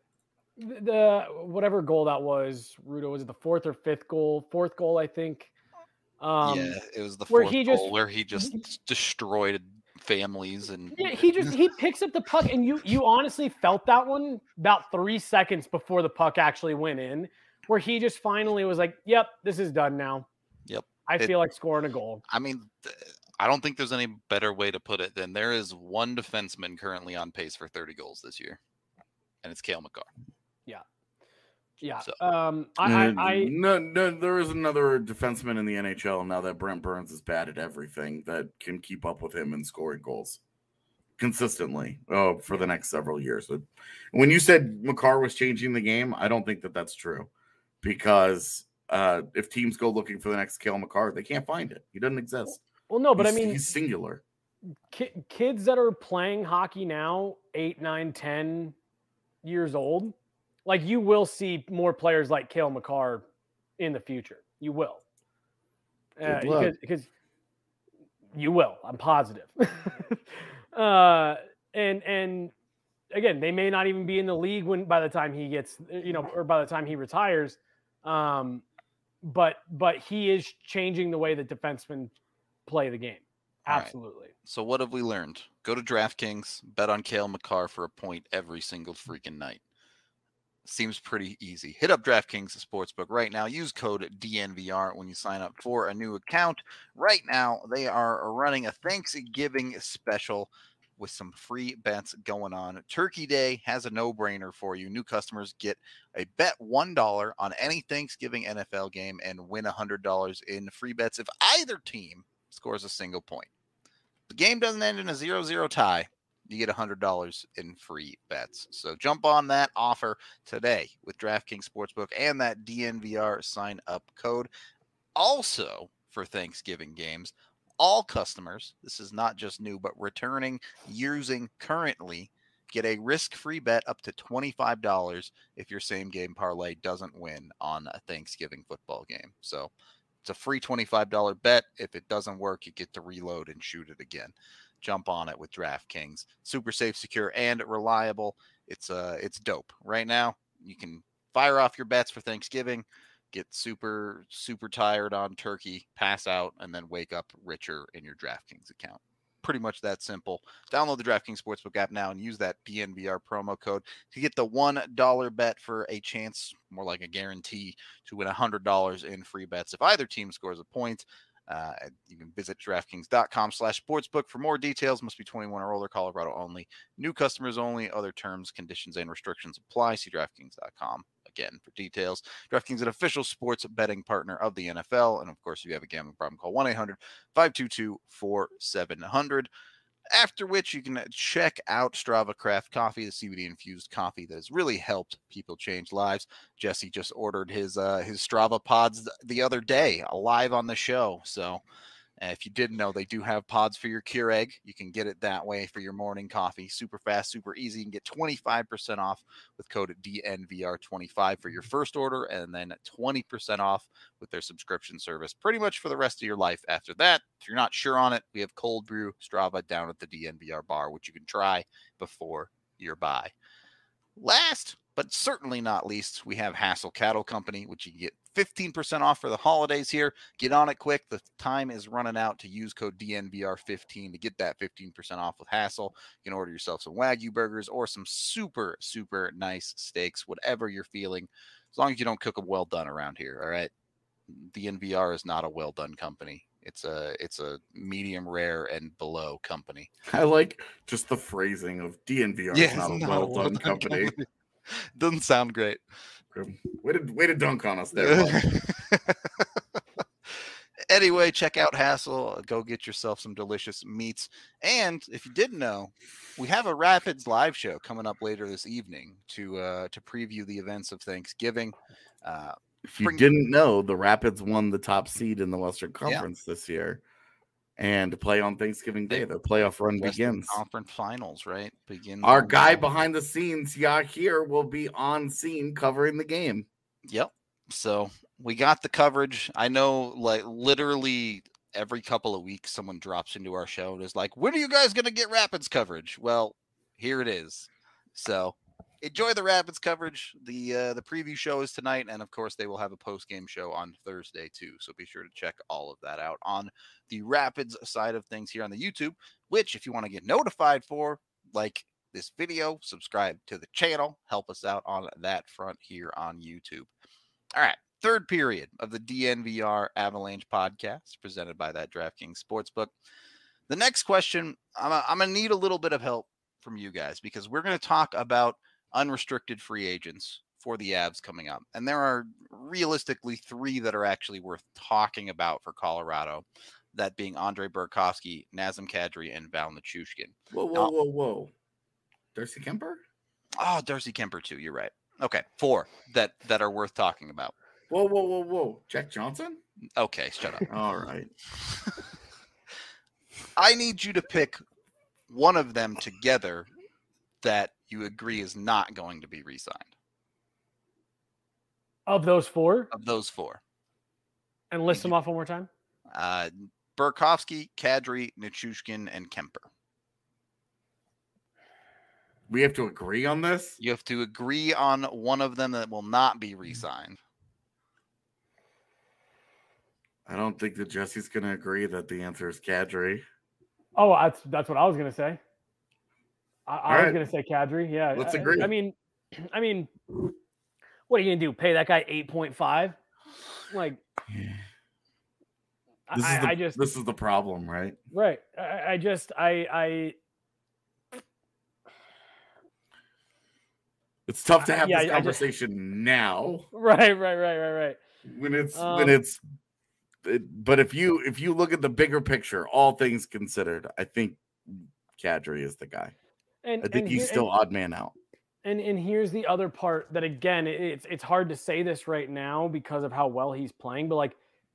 the whatever goal that was. Rudo, was it the fourth or fifth goal? Fourth goal, I think. Um, yeah, it was the fourth where he goal just, where he just destroyed families and yeah, he just he picks up the puck and you you honestly felt that one about three seconds before the puck actually went in, where he just finally was like, "Yep, this is done now. Yep, I it, feel like scoring a goal." I mean, I don't think there's any better way to put it than there is one defenseman currently on pace for thirty goals this year, and it's Cale Makar. Yeah. Yeah. So, um, I, I, I no, no, there is another defenseman in the N H L now that Brent Burns is bad at everything that can keep up with him in scoring goals consistently oh, for the next several years. When you said Makar was changing the game, I don't think that that's true because uh, if teams go looking for the next Cale Makar, they can't find it. He doesn't exist. Well, no, but he's, I mean, he's singular. Ki- kids that are playing hockey now, eight, nine, ten years old, like you will see more players like Cale Makar in the future. You will. Uh, because, because you will. I'm positive. uh, and and again, they may not even be in the league when by the time he gets, you know, or by the time he retires. Um, but but he is changing the way that defensemen play the game. Absolutely. Right. So what have we learned? Go to DraftKings, bet on Cale Makar for a point every single freaking night. Seems pretty easy. Hit up DraftKings Sportsbook right now. Use code D N V R when you sign up for a new account. Right now, they are running a Thanksgiving special with some free bets going on. Turkey Day has a no-brainer for you. New customers get a bet one dollar on any Thanksgiving N F L game and win one hundred dollars in free bets if either team scores a single point. The game doesn't end in a zero zero tie. You get one hundred dollars in free bets. So jump on that offer today with DraftKings Sportsbook and that D N V R sign-up code. Also, for Thanksgiving games, all customers, this is not just new, but returning, using currently, get a risk-free bet up to twenty-five dollars if your same-game parlay doesn't win on a Thanksgiving football game. So it's a free twenty-five dollars bet. If it doesn't work, you get to reload and shoot it again. Jump on it with DraftKings. Super safe, secure, and reliable. It's uh, it's dope. Right now, you can fire off your bets for Thanksgiving, get super, super tired on turkey, pass out, and then wake up richer in your DraftKings account. Pretty much that simple. Download the DraftKings Sportsbook app now and use that D N V R promo code to get the one dollar bet for a chance, more like a guarantee, to win one hundred dollars in free bets if either team scores a point. Uh, you can visit DraftKings.com slash sportsbook for more details. Must be twenty-one or older, Colorado only. New customers only. Other terms, conditions, and restrictions apply. See DraftKings dot com again for details. DraftKings is an official sports betting partner of the N F L. And, of course, if you have a gambling problem, call one eight hundred five two two four seven zero zero. After which you can check out Strava Craft Coffee, the C B D-infused coffee that has really helped people change lives. Jesse just ordered his uh, his Strava pods the other day, live on the show. So Uh, if you didn't know, they do have pods for your Keurig. You can get it that way for your morning coffee. Super fast, super easy. You can get twenty-five percent off with code D N V R twenty-five for your first order, and then twenty percent off with their subscription service pretty much for the rest of your life after that. If you're not sure on it, we have cold brew Strava down at the D N V R bar, which you can try before your buy. Last, but certainly not least, we have Hassel Cattle Company, which you can get fifteen percent off for the holidays here. Get on it quick. The time is running out to use code D N V R fifteen to get that fifteen percent off with Hassel. You can order yourself some Wagyu burgers or some super, super nice steaks, whatever you're feeling, as long as you don't cook them well done around here, all right? D N V R is not a well done company. It's a it's a medium rare and below company. I like just the phrasing of D N V R Yeah, is not a not well done company. company. Doesn't sound great. Way to, way to dunk on us there. Anyway, check out Hassel. Go get yourself some delicious meats. And if you didn't know, we have a Rapids live show coming up later this evening to uh, to preview the events of Thanksgiving. Uh, If you Bring- didn't know, the Rapids won the top seed in the Western Conference Yeah. this year, and to play on Thanksgiving Day, They- their playoff run Western begins. Conference Finals, right? Begins. Our on- guy behind the scenes, Yahir, will be on scene covering the game. Yep. So we got the coverage. I know, like literally every couple of weeks, someone drops into our show and is like, "When are you guys going to get Rapids coverage?" Well, here it is. So enjoy the Rapids coverage. The uh, the preview show is tonight, and of course, they will have a post game show on Thursday too. So be sure to check all of that out on the Rapids side of things here on the YouTube. Which, if you want to get notified for, like this video, subscribe to the channel, help us out on that front here on YouTube. All right, third period of the D N V R Avalanche podcast presented by that DraftKings Sportsbook. The next question, I'm, I'm going to need a little bit of help from you guys because we're going to talk about unrestricted free agents for the Avs coming up. And there are realistically three that are actually worth talking about for Colorado, that being Andre Burakovsky, Nazem Kadri, and Val Nichushkin. Whoa, whoa, Now- whoa, whoa. Darcy Kemper? Oh, Darcy Kemper too. You're right. Okay, four that that are worth talking about. Whoa, whoa, whoa, whoa. Jack Johnson? Okay, shut up. All right. I need you to pick one of them together that you agree is not going to be re-signed. Of those four, Of those four, and list them off one more time. uh, Burakovsky, Kadri, Nichushkin, and Kemper. We have to agree on this? You have to agree on one of them that will not be re-signed. I don't think that Jesse's going to agree that the answer is Kadri. Oh, that's that's what I was gonna say. I, I was right. gonna say Kadri. Yeah, Let's I- agree. I mean, I mean, what are you gonna do? Pay that guy eight point five? Like, This I, is the, I just this is the problem, right? right. I, I just I I It's tough to have Yeah, this I just- conversation now right right right right right. when it's Um, when it's it, but if you if you look at the bigger picture, all things considered, I think Kadri is the guy. And I think and he's here- still odd man out. And and here's the other part that again, it- it's it's hard to say this right now because of how well he's playing, but like,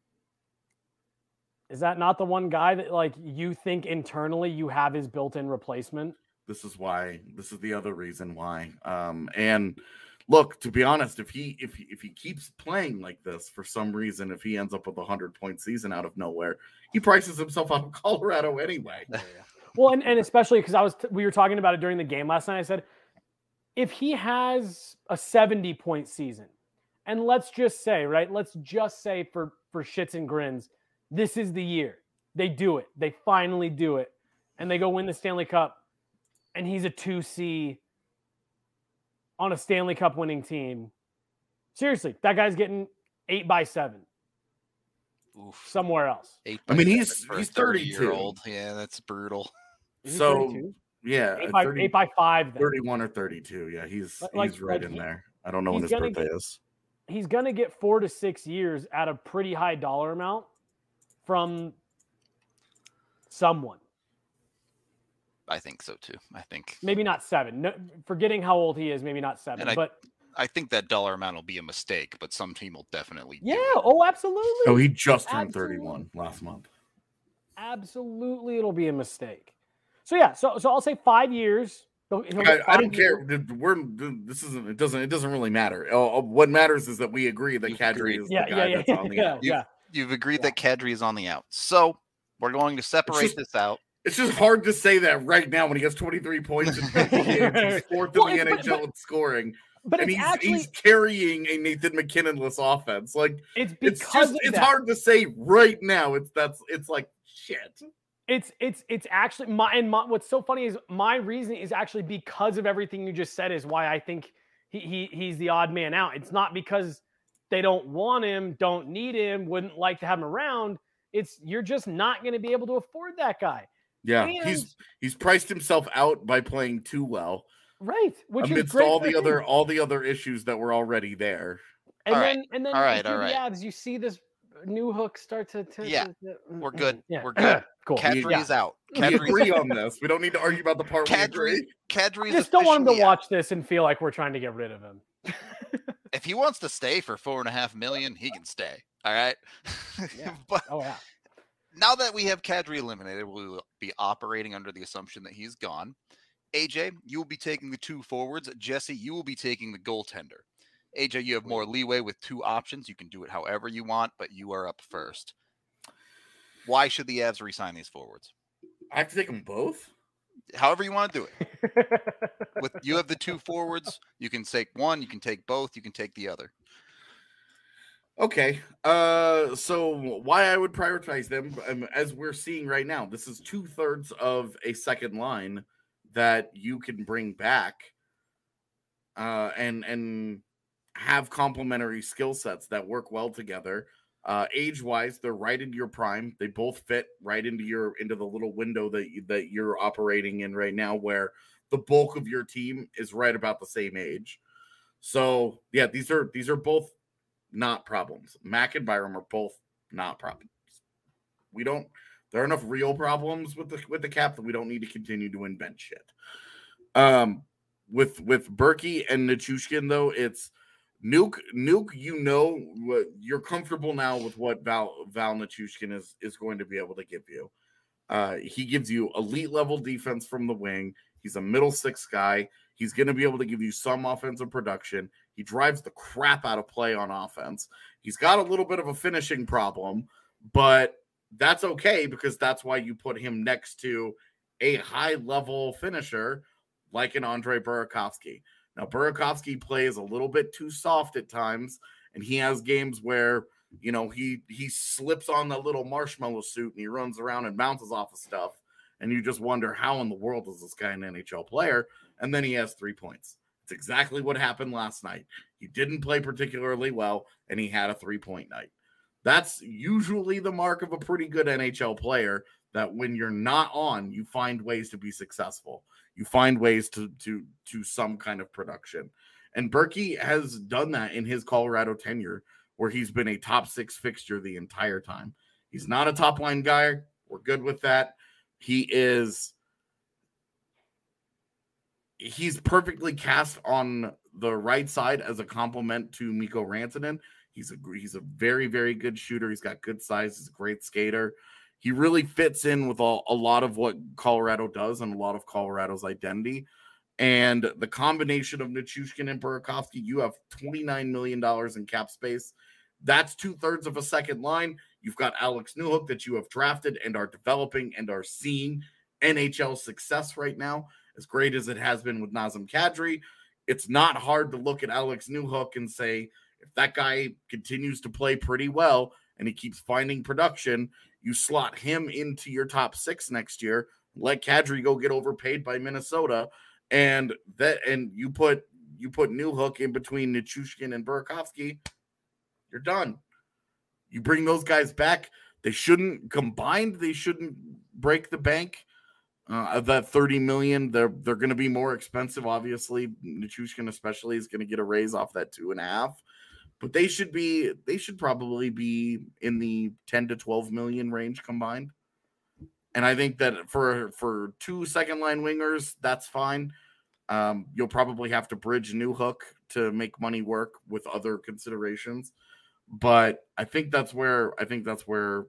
is that not the one guy that like you think internally you have his built-in replacement? This is why. This is the other reason why. Um, and look, to be honest, if he if he, if he keeps playing like this for some reason, if he ends up with a hundred point season out of nowhere, he prices himself out of Colorado anyway. Well, and, and especially because I was t- we were talking about it during the game last night. I said, if he has a seventy point season, and let's just say, right, let's just say for for shits and grins, this is the year they do it. They finally do it, and they go win the Stanley Cup, and he's a two C on a Stanley Cup winning team. Seriously, that guy's getting eight by seven Oof. somewhere else. Eight I mean, by he's- seven for a he's thirty-two. thirty-year-old. Yeah, that's brutal. Is he So, thirty-two? Yeah, eight uh, by, thirty, eight by five. Then. thirty-one or thirty-two. Yeah, he's Like- he's right like in he- there. I don't know when he's his gonna birthday get- is. He's going to get four to six years at a pretty high dollar amount from someone. I think so too. I think Maybe not seven. No, forgetting how old he is, maybe not seven. And I- but I think that dollar amount will be a mistake, but some team will definitely. do yeah, it. oh, absolutely. Oh, he just turned Absolutely. thirty-one last month. absolutely it'll be a mistake. So yeah, so so I'll say five years. He'll, he'll I, get I five don't years. care. We're this isn't. It doesn't. It doesn't really matter. Uh, what matters is that we agree that You've Kadri agreed. is Yeah, the yeah, guy yeah, that's on the yeah, out. You've, yeah. you've agreed Yeah. that Kadri is on the out. So we're going to separate just- this out. It's just hard to say that right now when he has twenty-three points in fifty games. He's fourth Well, in the it's- N but- H L but- in scoring, But and it's he's actually he's carrying a Nathan McKinnon-less offense. Like it's because it's just of it's that. hard to say right now. It's that's it's like shit. It's it's it's actually my and my, what's so funny is my reasoning is actually because of everything you just said is why I think he, he he's the odd man out. It's not because they don't want him, don't need him, wouldn't like to have him around. It's you're just not going to be able to afford that guy. Yeah, And- he's he's priced himself out by playing too well, Right, which is amidst great all for the him. other all the other issues that were already there. And All then right, and then all right, if you're all the right. Avs, you see this new hook start to, to Yeah, to- to- we're good. Yeah, We're good. cool. Kadri Yeah. is out. We Kadri's, agree on this. We don't need to argue about the part we Kadri, agree. Kadri I is just don't want him to officially out. watch this and feel like we're trying to get rid of him. If he wants to stay for four and a half million, he can stay. All right. Yeah. But Oh yeah. now that we have Kadri eliminated, we will be operating under the assumption that he's gone. A J, you will be taking the two forwards. Jesse, you will be taking the goaltender. A J, you have more leeway with two options. You can do it however you want, but you are up first. Why should the Avs re-sign these forwards? I have to take them both. However you want to do it. With you have the two forwards, you can take one, you can take both, you can take the other. Okay. Uh, so why I would prioritize them, um, as we're seeing right now, this is two thirds of a second line that you can bring back, uh, and and have complementary skill sets that work well together. Uh, age wise, they're right into your prime. They both fit right into your into the little window that you, that you're operating in right now, where the bulk of your team is right about the same age. So yeah, these are these are both not problems. Mac and Byram are both not problems. We don't. There are enough real problems with the with the cap that we don't need to continue to invent shit. Um, with with Berkey and Nichushkin though, it's Nuke. Nuke, you know, what you're comfortable now with what Val Val Nichushkin is is going to be able to give you. Uh, he gives you elite level defense from the wing. He's a middle six guy. He's going to be able to give you some offensive production. He drives the crap out of play on offense. He's got a little bit of a finishing problem, but that's okay because that's why you put him next to a high-level finisher like an Andre Burakovsky. Now, Burakovsky plays a little bit too soft at times, and he has games where, you know, he he slips on the little marshmallow suit and he runs around and bounces off of stuff, and you just wonder how in the world is this guy an N H L player? And then he has three points. It's exactly what happened last night. He didn't play particularly well, and he had a three-point night. That's usually the mark of a pretty good N H L player, that when you're not on, you find ways to be successful. You find ways to to to some kind of production. And Berkey has done that in his Colorado tenure, where he's been a top six fixture the entire time. He's not a top line guy. We're good with that. He is he's perfectly cast on the right side as a complement to Mikko Rantanen. He's a he's a very, very good shooter. He's got good size. He's a great skater. He really fits in with all, a lot of what Colorado does and a lot of Colorado's identity. And the combination of Nichushkin and Burakovsky, you have twenty-nine million dollars in cap space. That's two-thirds of a second line. You've got Alex Newhook that you have drafted and are developing and are seeing N H L success right now, as great as it has been with Nazem Kadri. It's not hard to look at Alex Newhook and say, if that guy continues to play pretty well and he keeps finding production, you slot him into your top six next year, let Kadri go get overpaid by Minnesota, and that and you put you put Newhook in between Nichushkin and Burakovsky, you're done. You bring those guys back. They shouldn't combined. They shouldn't break the bank. Uh, of that thirty million, they're they're going to be more expensive. Obviously, Nichushkin especially is going to get a raise off that two and a half. But they should be they should probably be in the ten to twelve million range combined. And I think that for for two second line wingers, that's fine. Um, you'll probably have to bridge Newhook to make money work with other considerations. But I think that's where I think that's where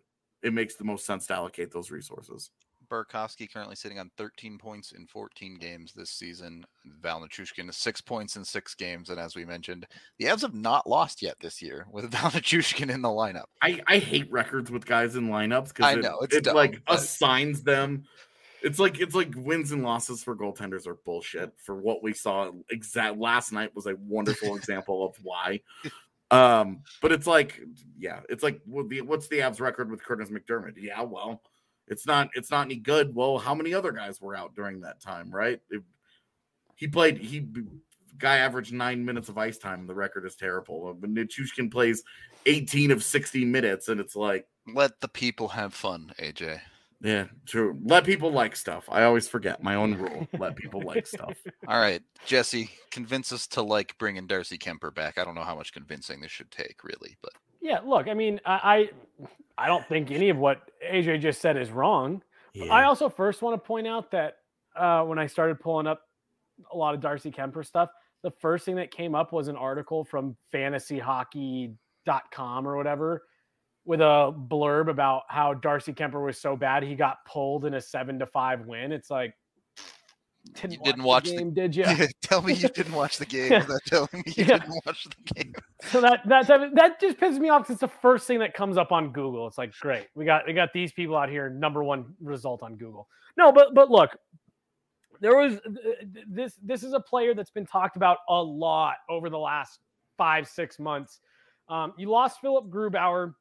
it makes the most sense to allocate those resources. Burakovsky currently sitting on thirteen points in fourteen games this season. Val Nichushkin is six points in six games. And as we mentioned, the Avs have not lost yet this year with Val Nichushkin in the lineup. I, I hate records with guys in lineups because I it, know, it's it dumb, like but- assigns them. It's like it's like wins and losses for goaltenders are bullshit. For what we saw, exact last night was a wonderful example of why. Um, but it's like, yeah, it's like what's the Avs record with Curtis McDermott? Yeah, well. It's not. It's not any good. Well, how many other guys were out during that time, right? It, he played. He guy averaged nine minutes of ice time. The record is terrible. But Nichushkin plays eighteen of sixty minutes, and it's like, let the people have fun, A J. Yeah, true. Let people like stuff. I always forget my own rule. Let people like stuff. All right, Jesse, convince us to like bringing Darcy Kemper back. I don't know how much convincing this should take, really, but yeah. Look, I mean, I, I don't think any of what A J just said is wrong. Yeah. I also first want to point out that uh, when I started pulling up a lot of Darcy Kemper stuff, the first thing that came up was an article from fantasy hockey dot com or whatever with a blurb about how Darcy Kemper was so bad he got pulled in a seven to five win. It's like, didn't you watch didn't watch the the game, did you? Tell me you didn't watch the game without telling me you Yeah. didn't watch the game. So that that that just pisses me off. 'Cause it's the first thing that comes up on Google. It's like, great, we got we got these people out here, number one result on Google. No, but but look, there was this this is a player that's been talked about a lot over the last five six months. Um, you lost Philip Grubauer,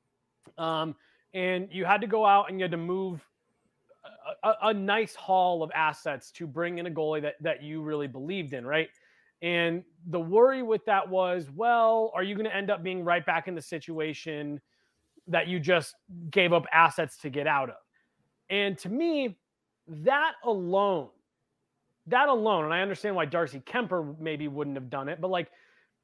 um, and you had to go out and you had to move a, a, a nice haul of assets to bring in a goalie that that you really believed in, right? And the worry with that was, well, are you going to end up being right back in the situation that you just gave up assets to get out of? And to me, that alone, that alone, and I understand why Darcy Kemper maybe wouldn't have done it, but like,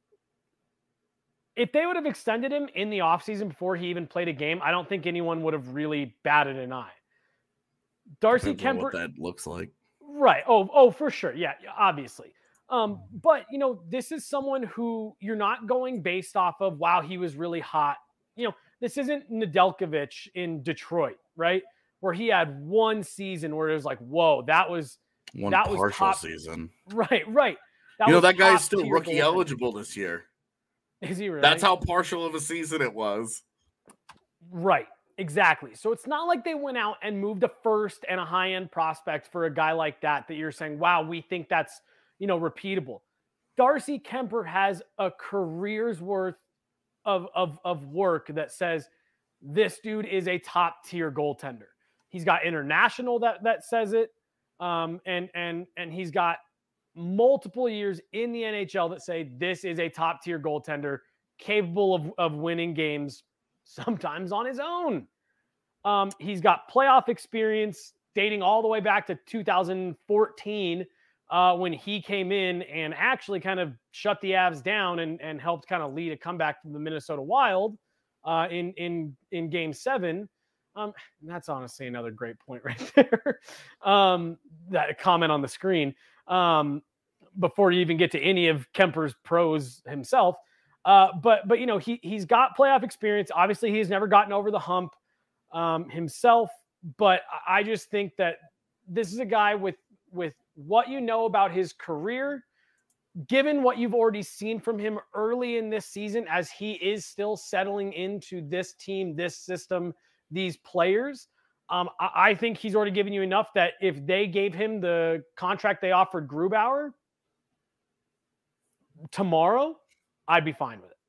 if they would have extended him in the offseason before he even played a game, I don't think anyone would have really batted an eye. Darcy Depends on Kemper, what that looks like. right? Oh, oh, for sure, yeah, obviously. Um, but you know, this is someone who you're not going based off of, wow, he was really hot. You know, this isn't Nedeljkovic in Detroit, right? Where he had one season where it was like, whoa, that was One that was partial top- season. right, right. That You know, was that guy is top still tier rookie goaltender. eligible this year. Is he really? That's how partial of a season it was. Right, exactly. So it's not like they went out and moved a first and a high-end prospect for a guy like that, that you're saying, wow, we think that's, you know, repeatable. Darcy Kemper has a career's worth of, of, of work that says this dude is a top-tier goaltender. He's got international that that says it, um, and and and he's got multiple years in the N H L that say this is a top-tier goaltender capable of, of winning games sometimes on his own. Um, he's got playoff experience dating all the way back to two thousand fourteen uh, when he came in and actually kind of shut the Avs down and, and helped kind of lead a comeback from the Minnesota Wild uh, in, in, in game seven. Um, that's honestly another great point right there. um, that comment on the screen. Um, before you even get to any of Kemper's pros himself. Uh, but, but, you know, he, he's got playoff experience. Obviously he's never gotten over the hump um, himself, but I just think that this is a guy with, with what you know about his career, given what you've already seen from him early in this season, as he is still settling into this team, this system, these players. Um, I, I think he's already given you enough that if they gave him the contract they offered Grubauer tomorrow, I'd be fine with it.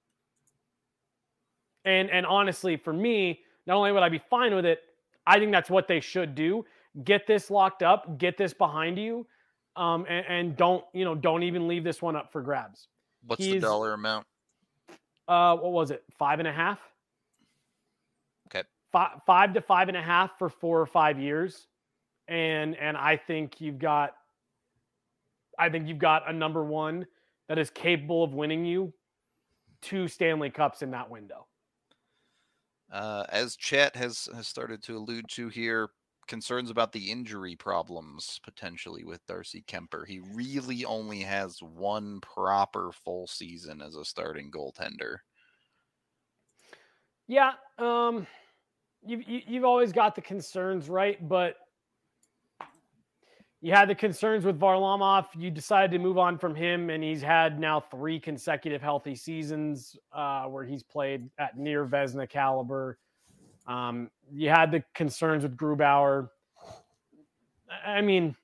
And and honestly, for me, not only would I be fine with it, I think that's what they should do. Get this locked up, get this behind you, um, and, and don't, you know, don't even leave this one up for grabs. What's He's- the dollar amount? Uh, what was it? Five and a half? Okay. Five, five to five and a half for four or five years. And and I think you've got I think you've got a number one that is capable of winning you two Stanley Cups in that window. Uh, as chat has, has started to allude to here, concerns about the injury problems potentially with Darcy Kemper. He really only has one proper full season as a starting goaltender. Yeah, um, you've you, you've always got the concerns, right? But you had the concerns with Varlamov. You decided to move on from him, and he's had now three consecutive healthy seasons uh, where he's played at near Vezina caliber. Um, you had the concerns with Grubauer. I mean,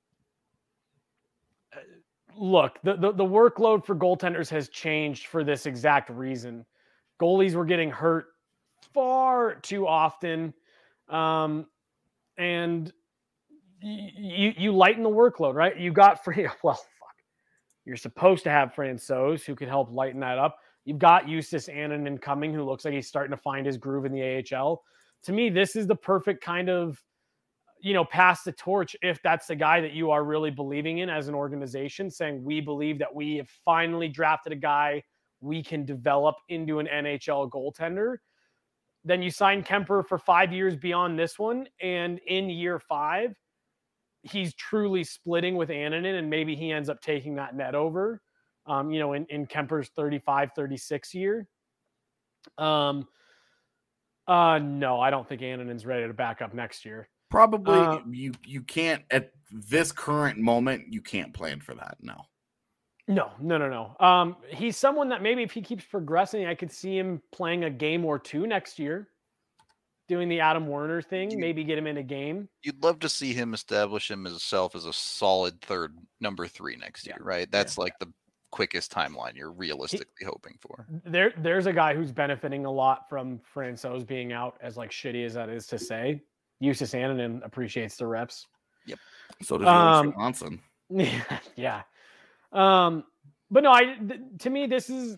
look, the, the, the workload for goaltenders has changed for this exact reason. Goalies were getting hurt far too often. Um, and you, you lighten the workload, right? You got free. Well, fuck. You're supposed to have Francouz who could help lighten that up. You've got Justus Annunen coming, who looks like he's starting to find his groove in the A H L. To me, this is the perfect kind of, you know, pass the torch if that's the guy that you are really believing in as an organization, saying we believe that we have finally drafted a guy we can develop into an N H L goaltender. Then you sign Kemper for five years beyond this one. And in year five, he's truly splitting with Annunen, and maybe he ends up taking that net over, um, you know, in, in Kemper's thirty-five, thirty-six year. Um, uh, no, I don't think Annunen's ready to back up next year. Probably uh, you you can't at this current moment, you can't plan for that. No. No, no, no, no. Um, he's someone that maybe if he keeps progressing, I could see him playing a game or two next year, doing the Adam Werner thing, You- maybe get him in a game. You'd love to see him establish himself as a solid third number three next year, Yeah. right? That's like the quickest timeline you're realistically hoping for. There, there's a guy who's benefiting a lot from Francouz being out, as like shitty as that is to say. Justus Annunen appreciates the reps. So does Um, Jonas Johansson. Yeah. Um, but no, I, th- to me, this is,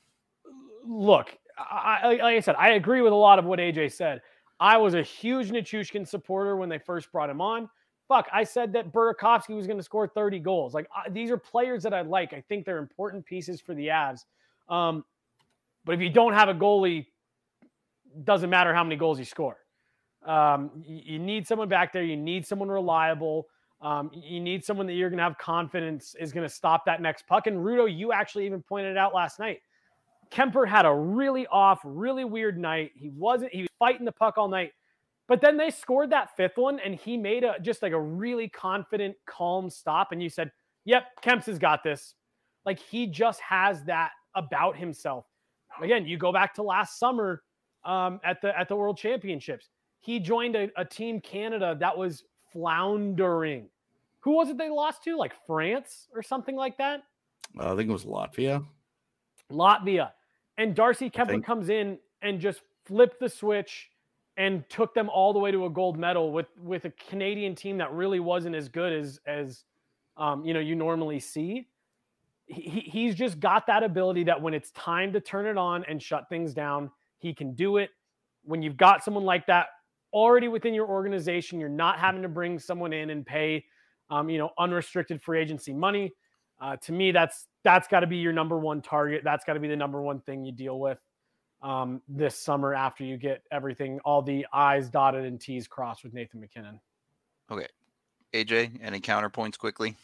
look, I, I, like I said, I agree with a lot of what A J said. I was a huge Nichushkin supporter when they first brought him on. Fuck, I said that Burakovsky was going to score thirty goals. Like, I, these are players that I like. I think they're important pieces for the Avs. Um, but if you don't have a goalie, doesn't matter how many goals you score. Um, you, you need someone back there. You need someone reliable. Um, you need someone that you're going to have confidence is going to stop that next puck. And Rudo, you actually even pointed it out last night. Kemper had a really off, really weird night. He wasn't, he was fighting the puck all night, but then they scored that fifth one and he made a, just like a really confident, calm stop. And you said, yep, Kemps has got this. Like he just has that about himself. Again, you go back to last summer um, at the, at the World Championships. He joined a, a team Canada that was floundering. Who was it they lost to? Like France or something like that? Uh, I think it was Latvia. Latvia. And Darcy Kemper think- comes in and just flipped the switch and took them all the way to a gold medal with, with a Canadian team that really wasn't as good as, as um, you know, you normally see. He, he's just got that ability that when it's time to turn it on and shut things down, he can do it. When you've got someone like that already within your organization, you're not having to bring someone in and pay, um, you know, unrestricted free agency money. Uh, to me, that's that's got to be your number one target. That's got to be the number one thing you deal with um, this summer after you get everything, all the I's dotted and T's crossed with Nathan MacKinnon. Okay. A J, any counterpoints quickly?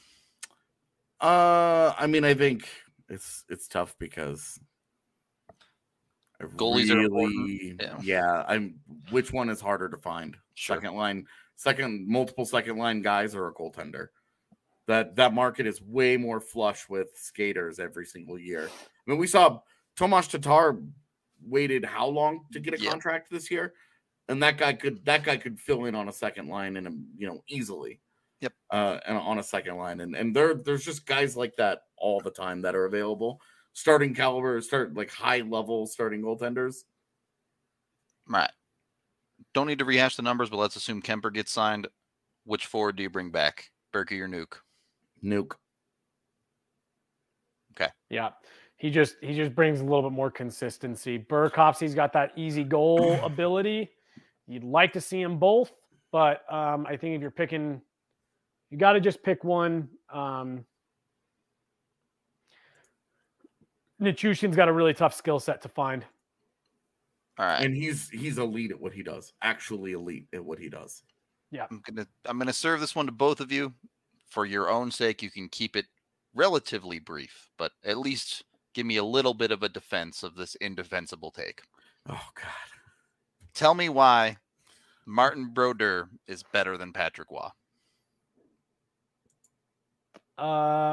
Uh, I mean, I think it's it's tough because I Goalies are important. really, Yeah. yeah. I'm. Which one is harder to find? Sure. Second line, second multiple second line guys or a goaltender? That that market is way more flush with skaters every single year. I mean, we saw Tomas Tatar waited how long to get a Yeah. contract this year, and that guy could that guy could fill in on a second line and you know easily. Yep. Uh, and on a second line, and and there there's just guys like that all the time that are available. Starting caliber, start like high level starting goaltenders. Right. Don't need to rehash the numbers, but let's assume Kemper gets signed. Which forward do you bring back? Berkey or Nuke? Nuke. Yeah. He just he just brings a little bit more consistency. Burakovsky's got that easy goal ability. You'd like to see them both, but um, I think if you're picking, you got to just pick one. Um, Nichushkin's got a really tough skill set to find. All right. And he's he's elite at what he does. Actually elite at what he does. I'm gonna I'm gonna serve this one to both of you. For your own sake, you can keep it relatively brief, but at least give me a little bit of a defense of this indefensible take. Oh God. Tell me why Martin Brodeur is better than Patrick Waugh. Uh,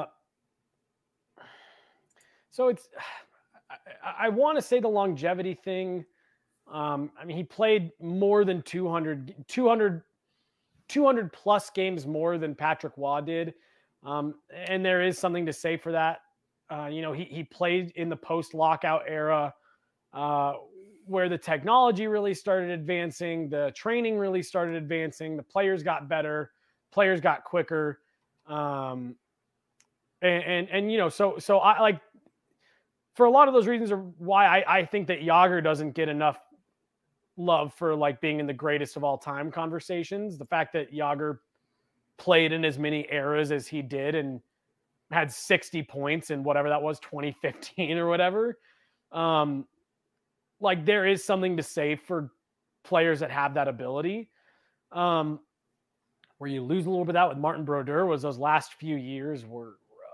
so it's, I, I want to say the longevity thing. Um, I mean, he played more than two hundred, two hundred, two hundred plus games more than Patrick Waugh did. Um, and there is something to say for that. Uh, you know, he, he played in the post lockout era, uh, where the technology really started advancing, the training really started advancing, the players got better, players got quicker. Um, and, and, and, you know, so, so I like, for a lot of those reasons are why I, I think that Jágr doesn't get enough love for like being in the greatest of all time conversations. The fact that Jágr played in as many eras as he did and had sixty points in whatever that was, twenty fifteen or whatever. Um, like there is something to say for players that have that ability. Um, where you lose a little bit of that with Martin Brodeur was those last few years were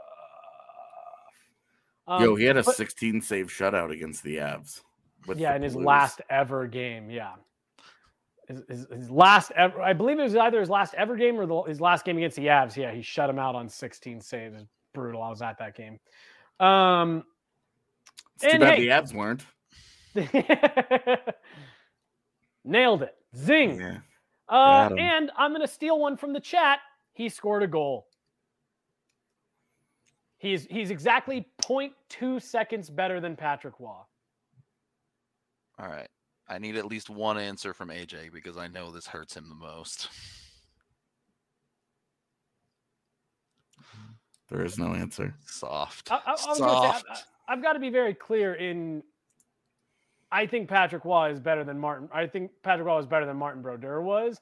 rough. Um, Yo, he had a but, sixteen save shutout against the Avs. Yeah, in his last ever game. Yeah. His, his, his last ever, I believe it was either his last ever game or the, his last game against the Avs. Yeah, he shut him out on sixteen saves. It's brutal. I was at that game. Um, it's too bad hey, the Avs weren't. Nailed it. Zing. Yeah. Uh, and I'm going to steal one from the chat. He scored a goal. He's he's exactly zero point two seconds better than Patrick Waugh. All right. I need at least one answer from A J because I know this hurts him the most. There is no answer. Soft. I, I, I Soft. Say, I, I've got to be very clear in. I think Patrick Waugh is better than Martin. I think Patrick Waugh is better than Martin Brodeur was.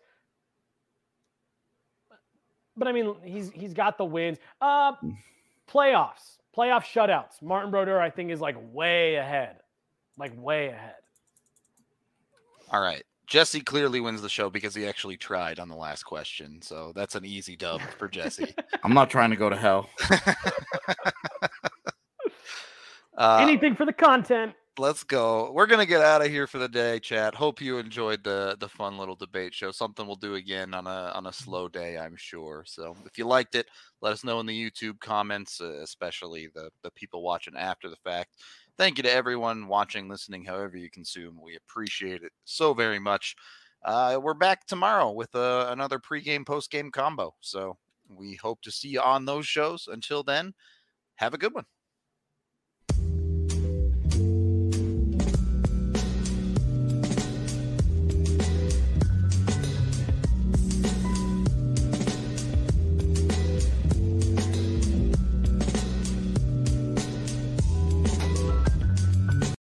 But I mean, he's he's got the wins. Uh, playoffs, playoff shutouts. Martin Brodeur, I think, is like way ahead, like way ahead. All right. Jesse clearly wins the show because he actually tried on the last question. So that's an easy dub for Jesse. I'm not trying to go to hell. uh, Anything for the content. Let's go. We're going to get out of here for the day, chat. Hope you enjoyed the the fun little debate show. Something we'll do again on a on a slow day, I'm sure. So if you liked it, let us know in the YouTube comments, uh, especially the, the people watching after the fact. Thank you to everyone watching, listening, however you consume. We appreciate it so very much. Uh, we're back tomorrow with uh, another pregame, postgame combo. So we hope to see you on those shows. Until then, have a good one.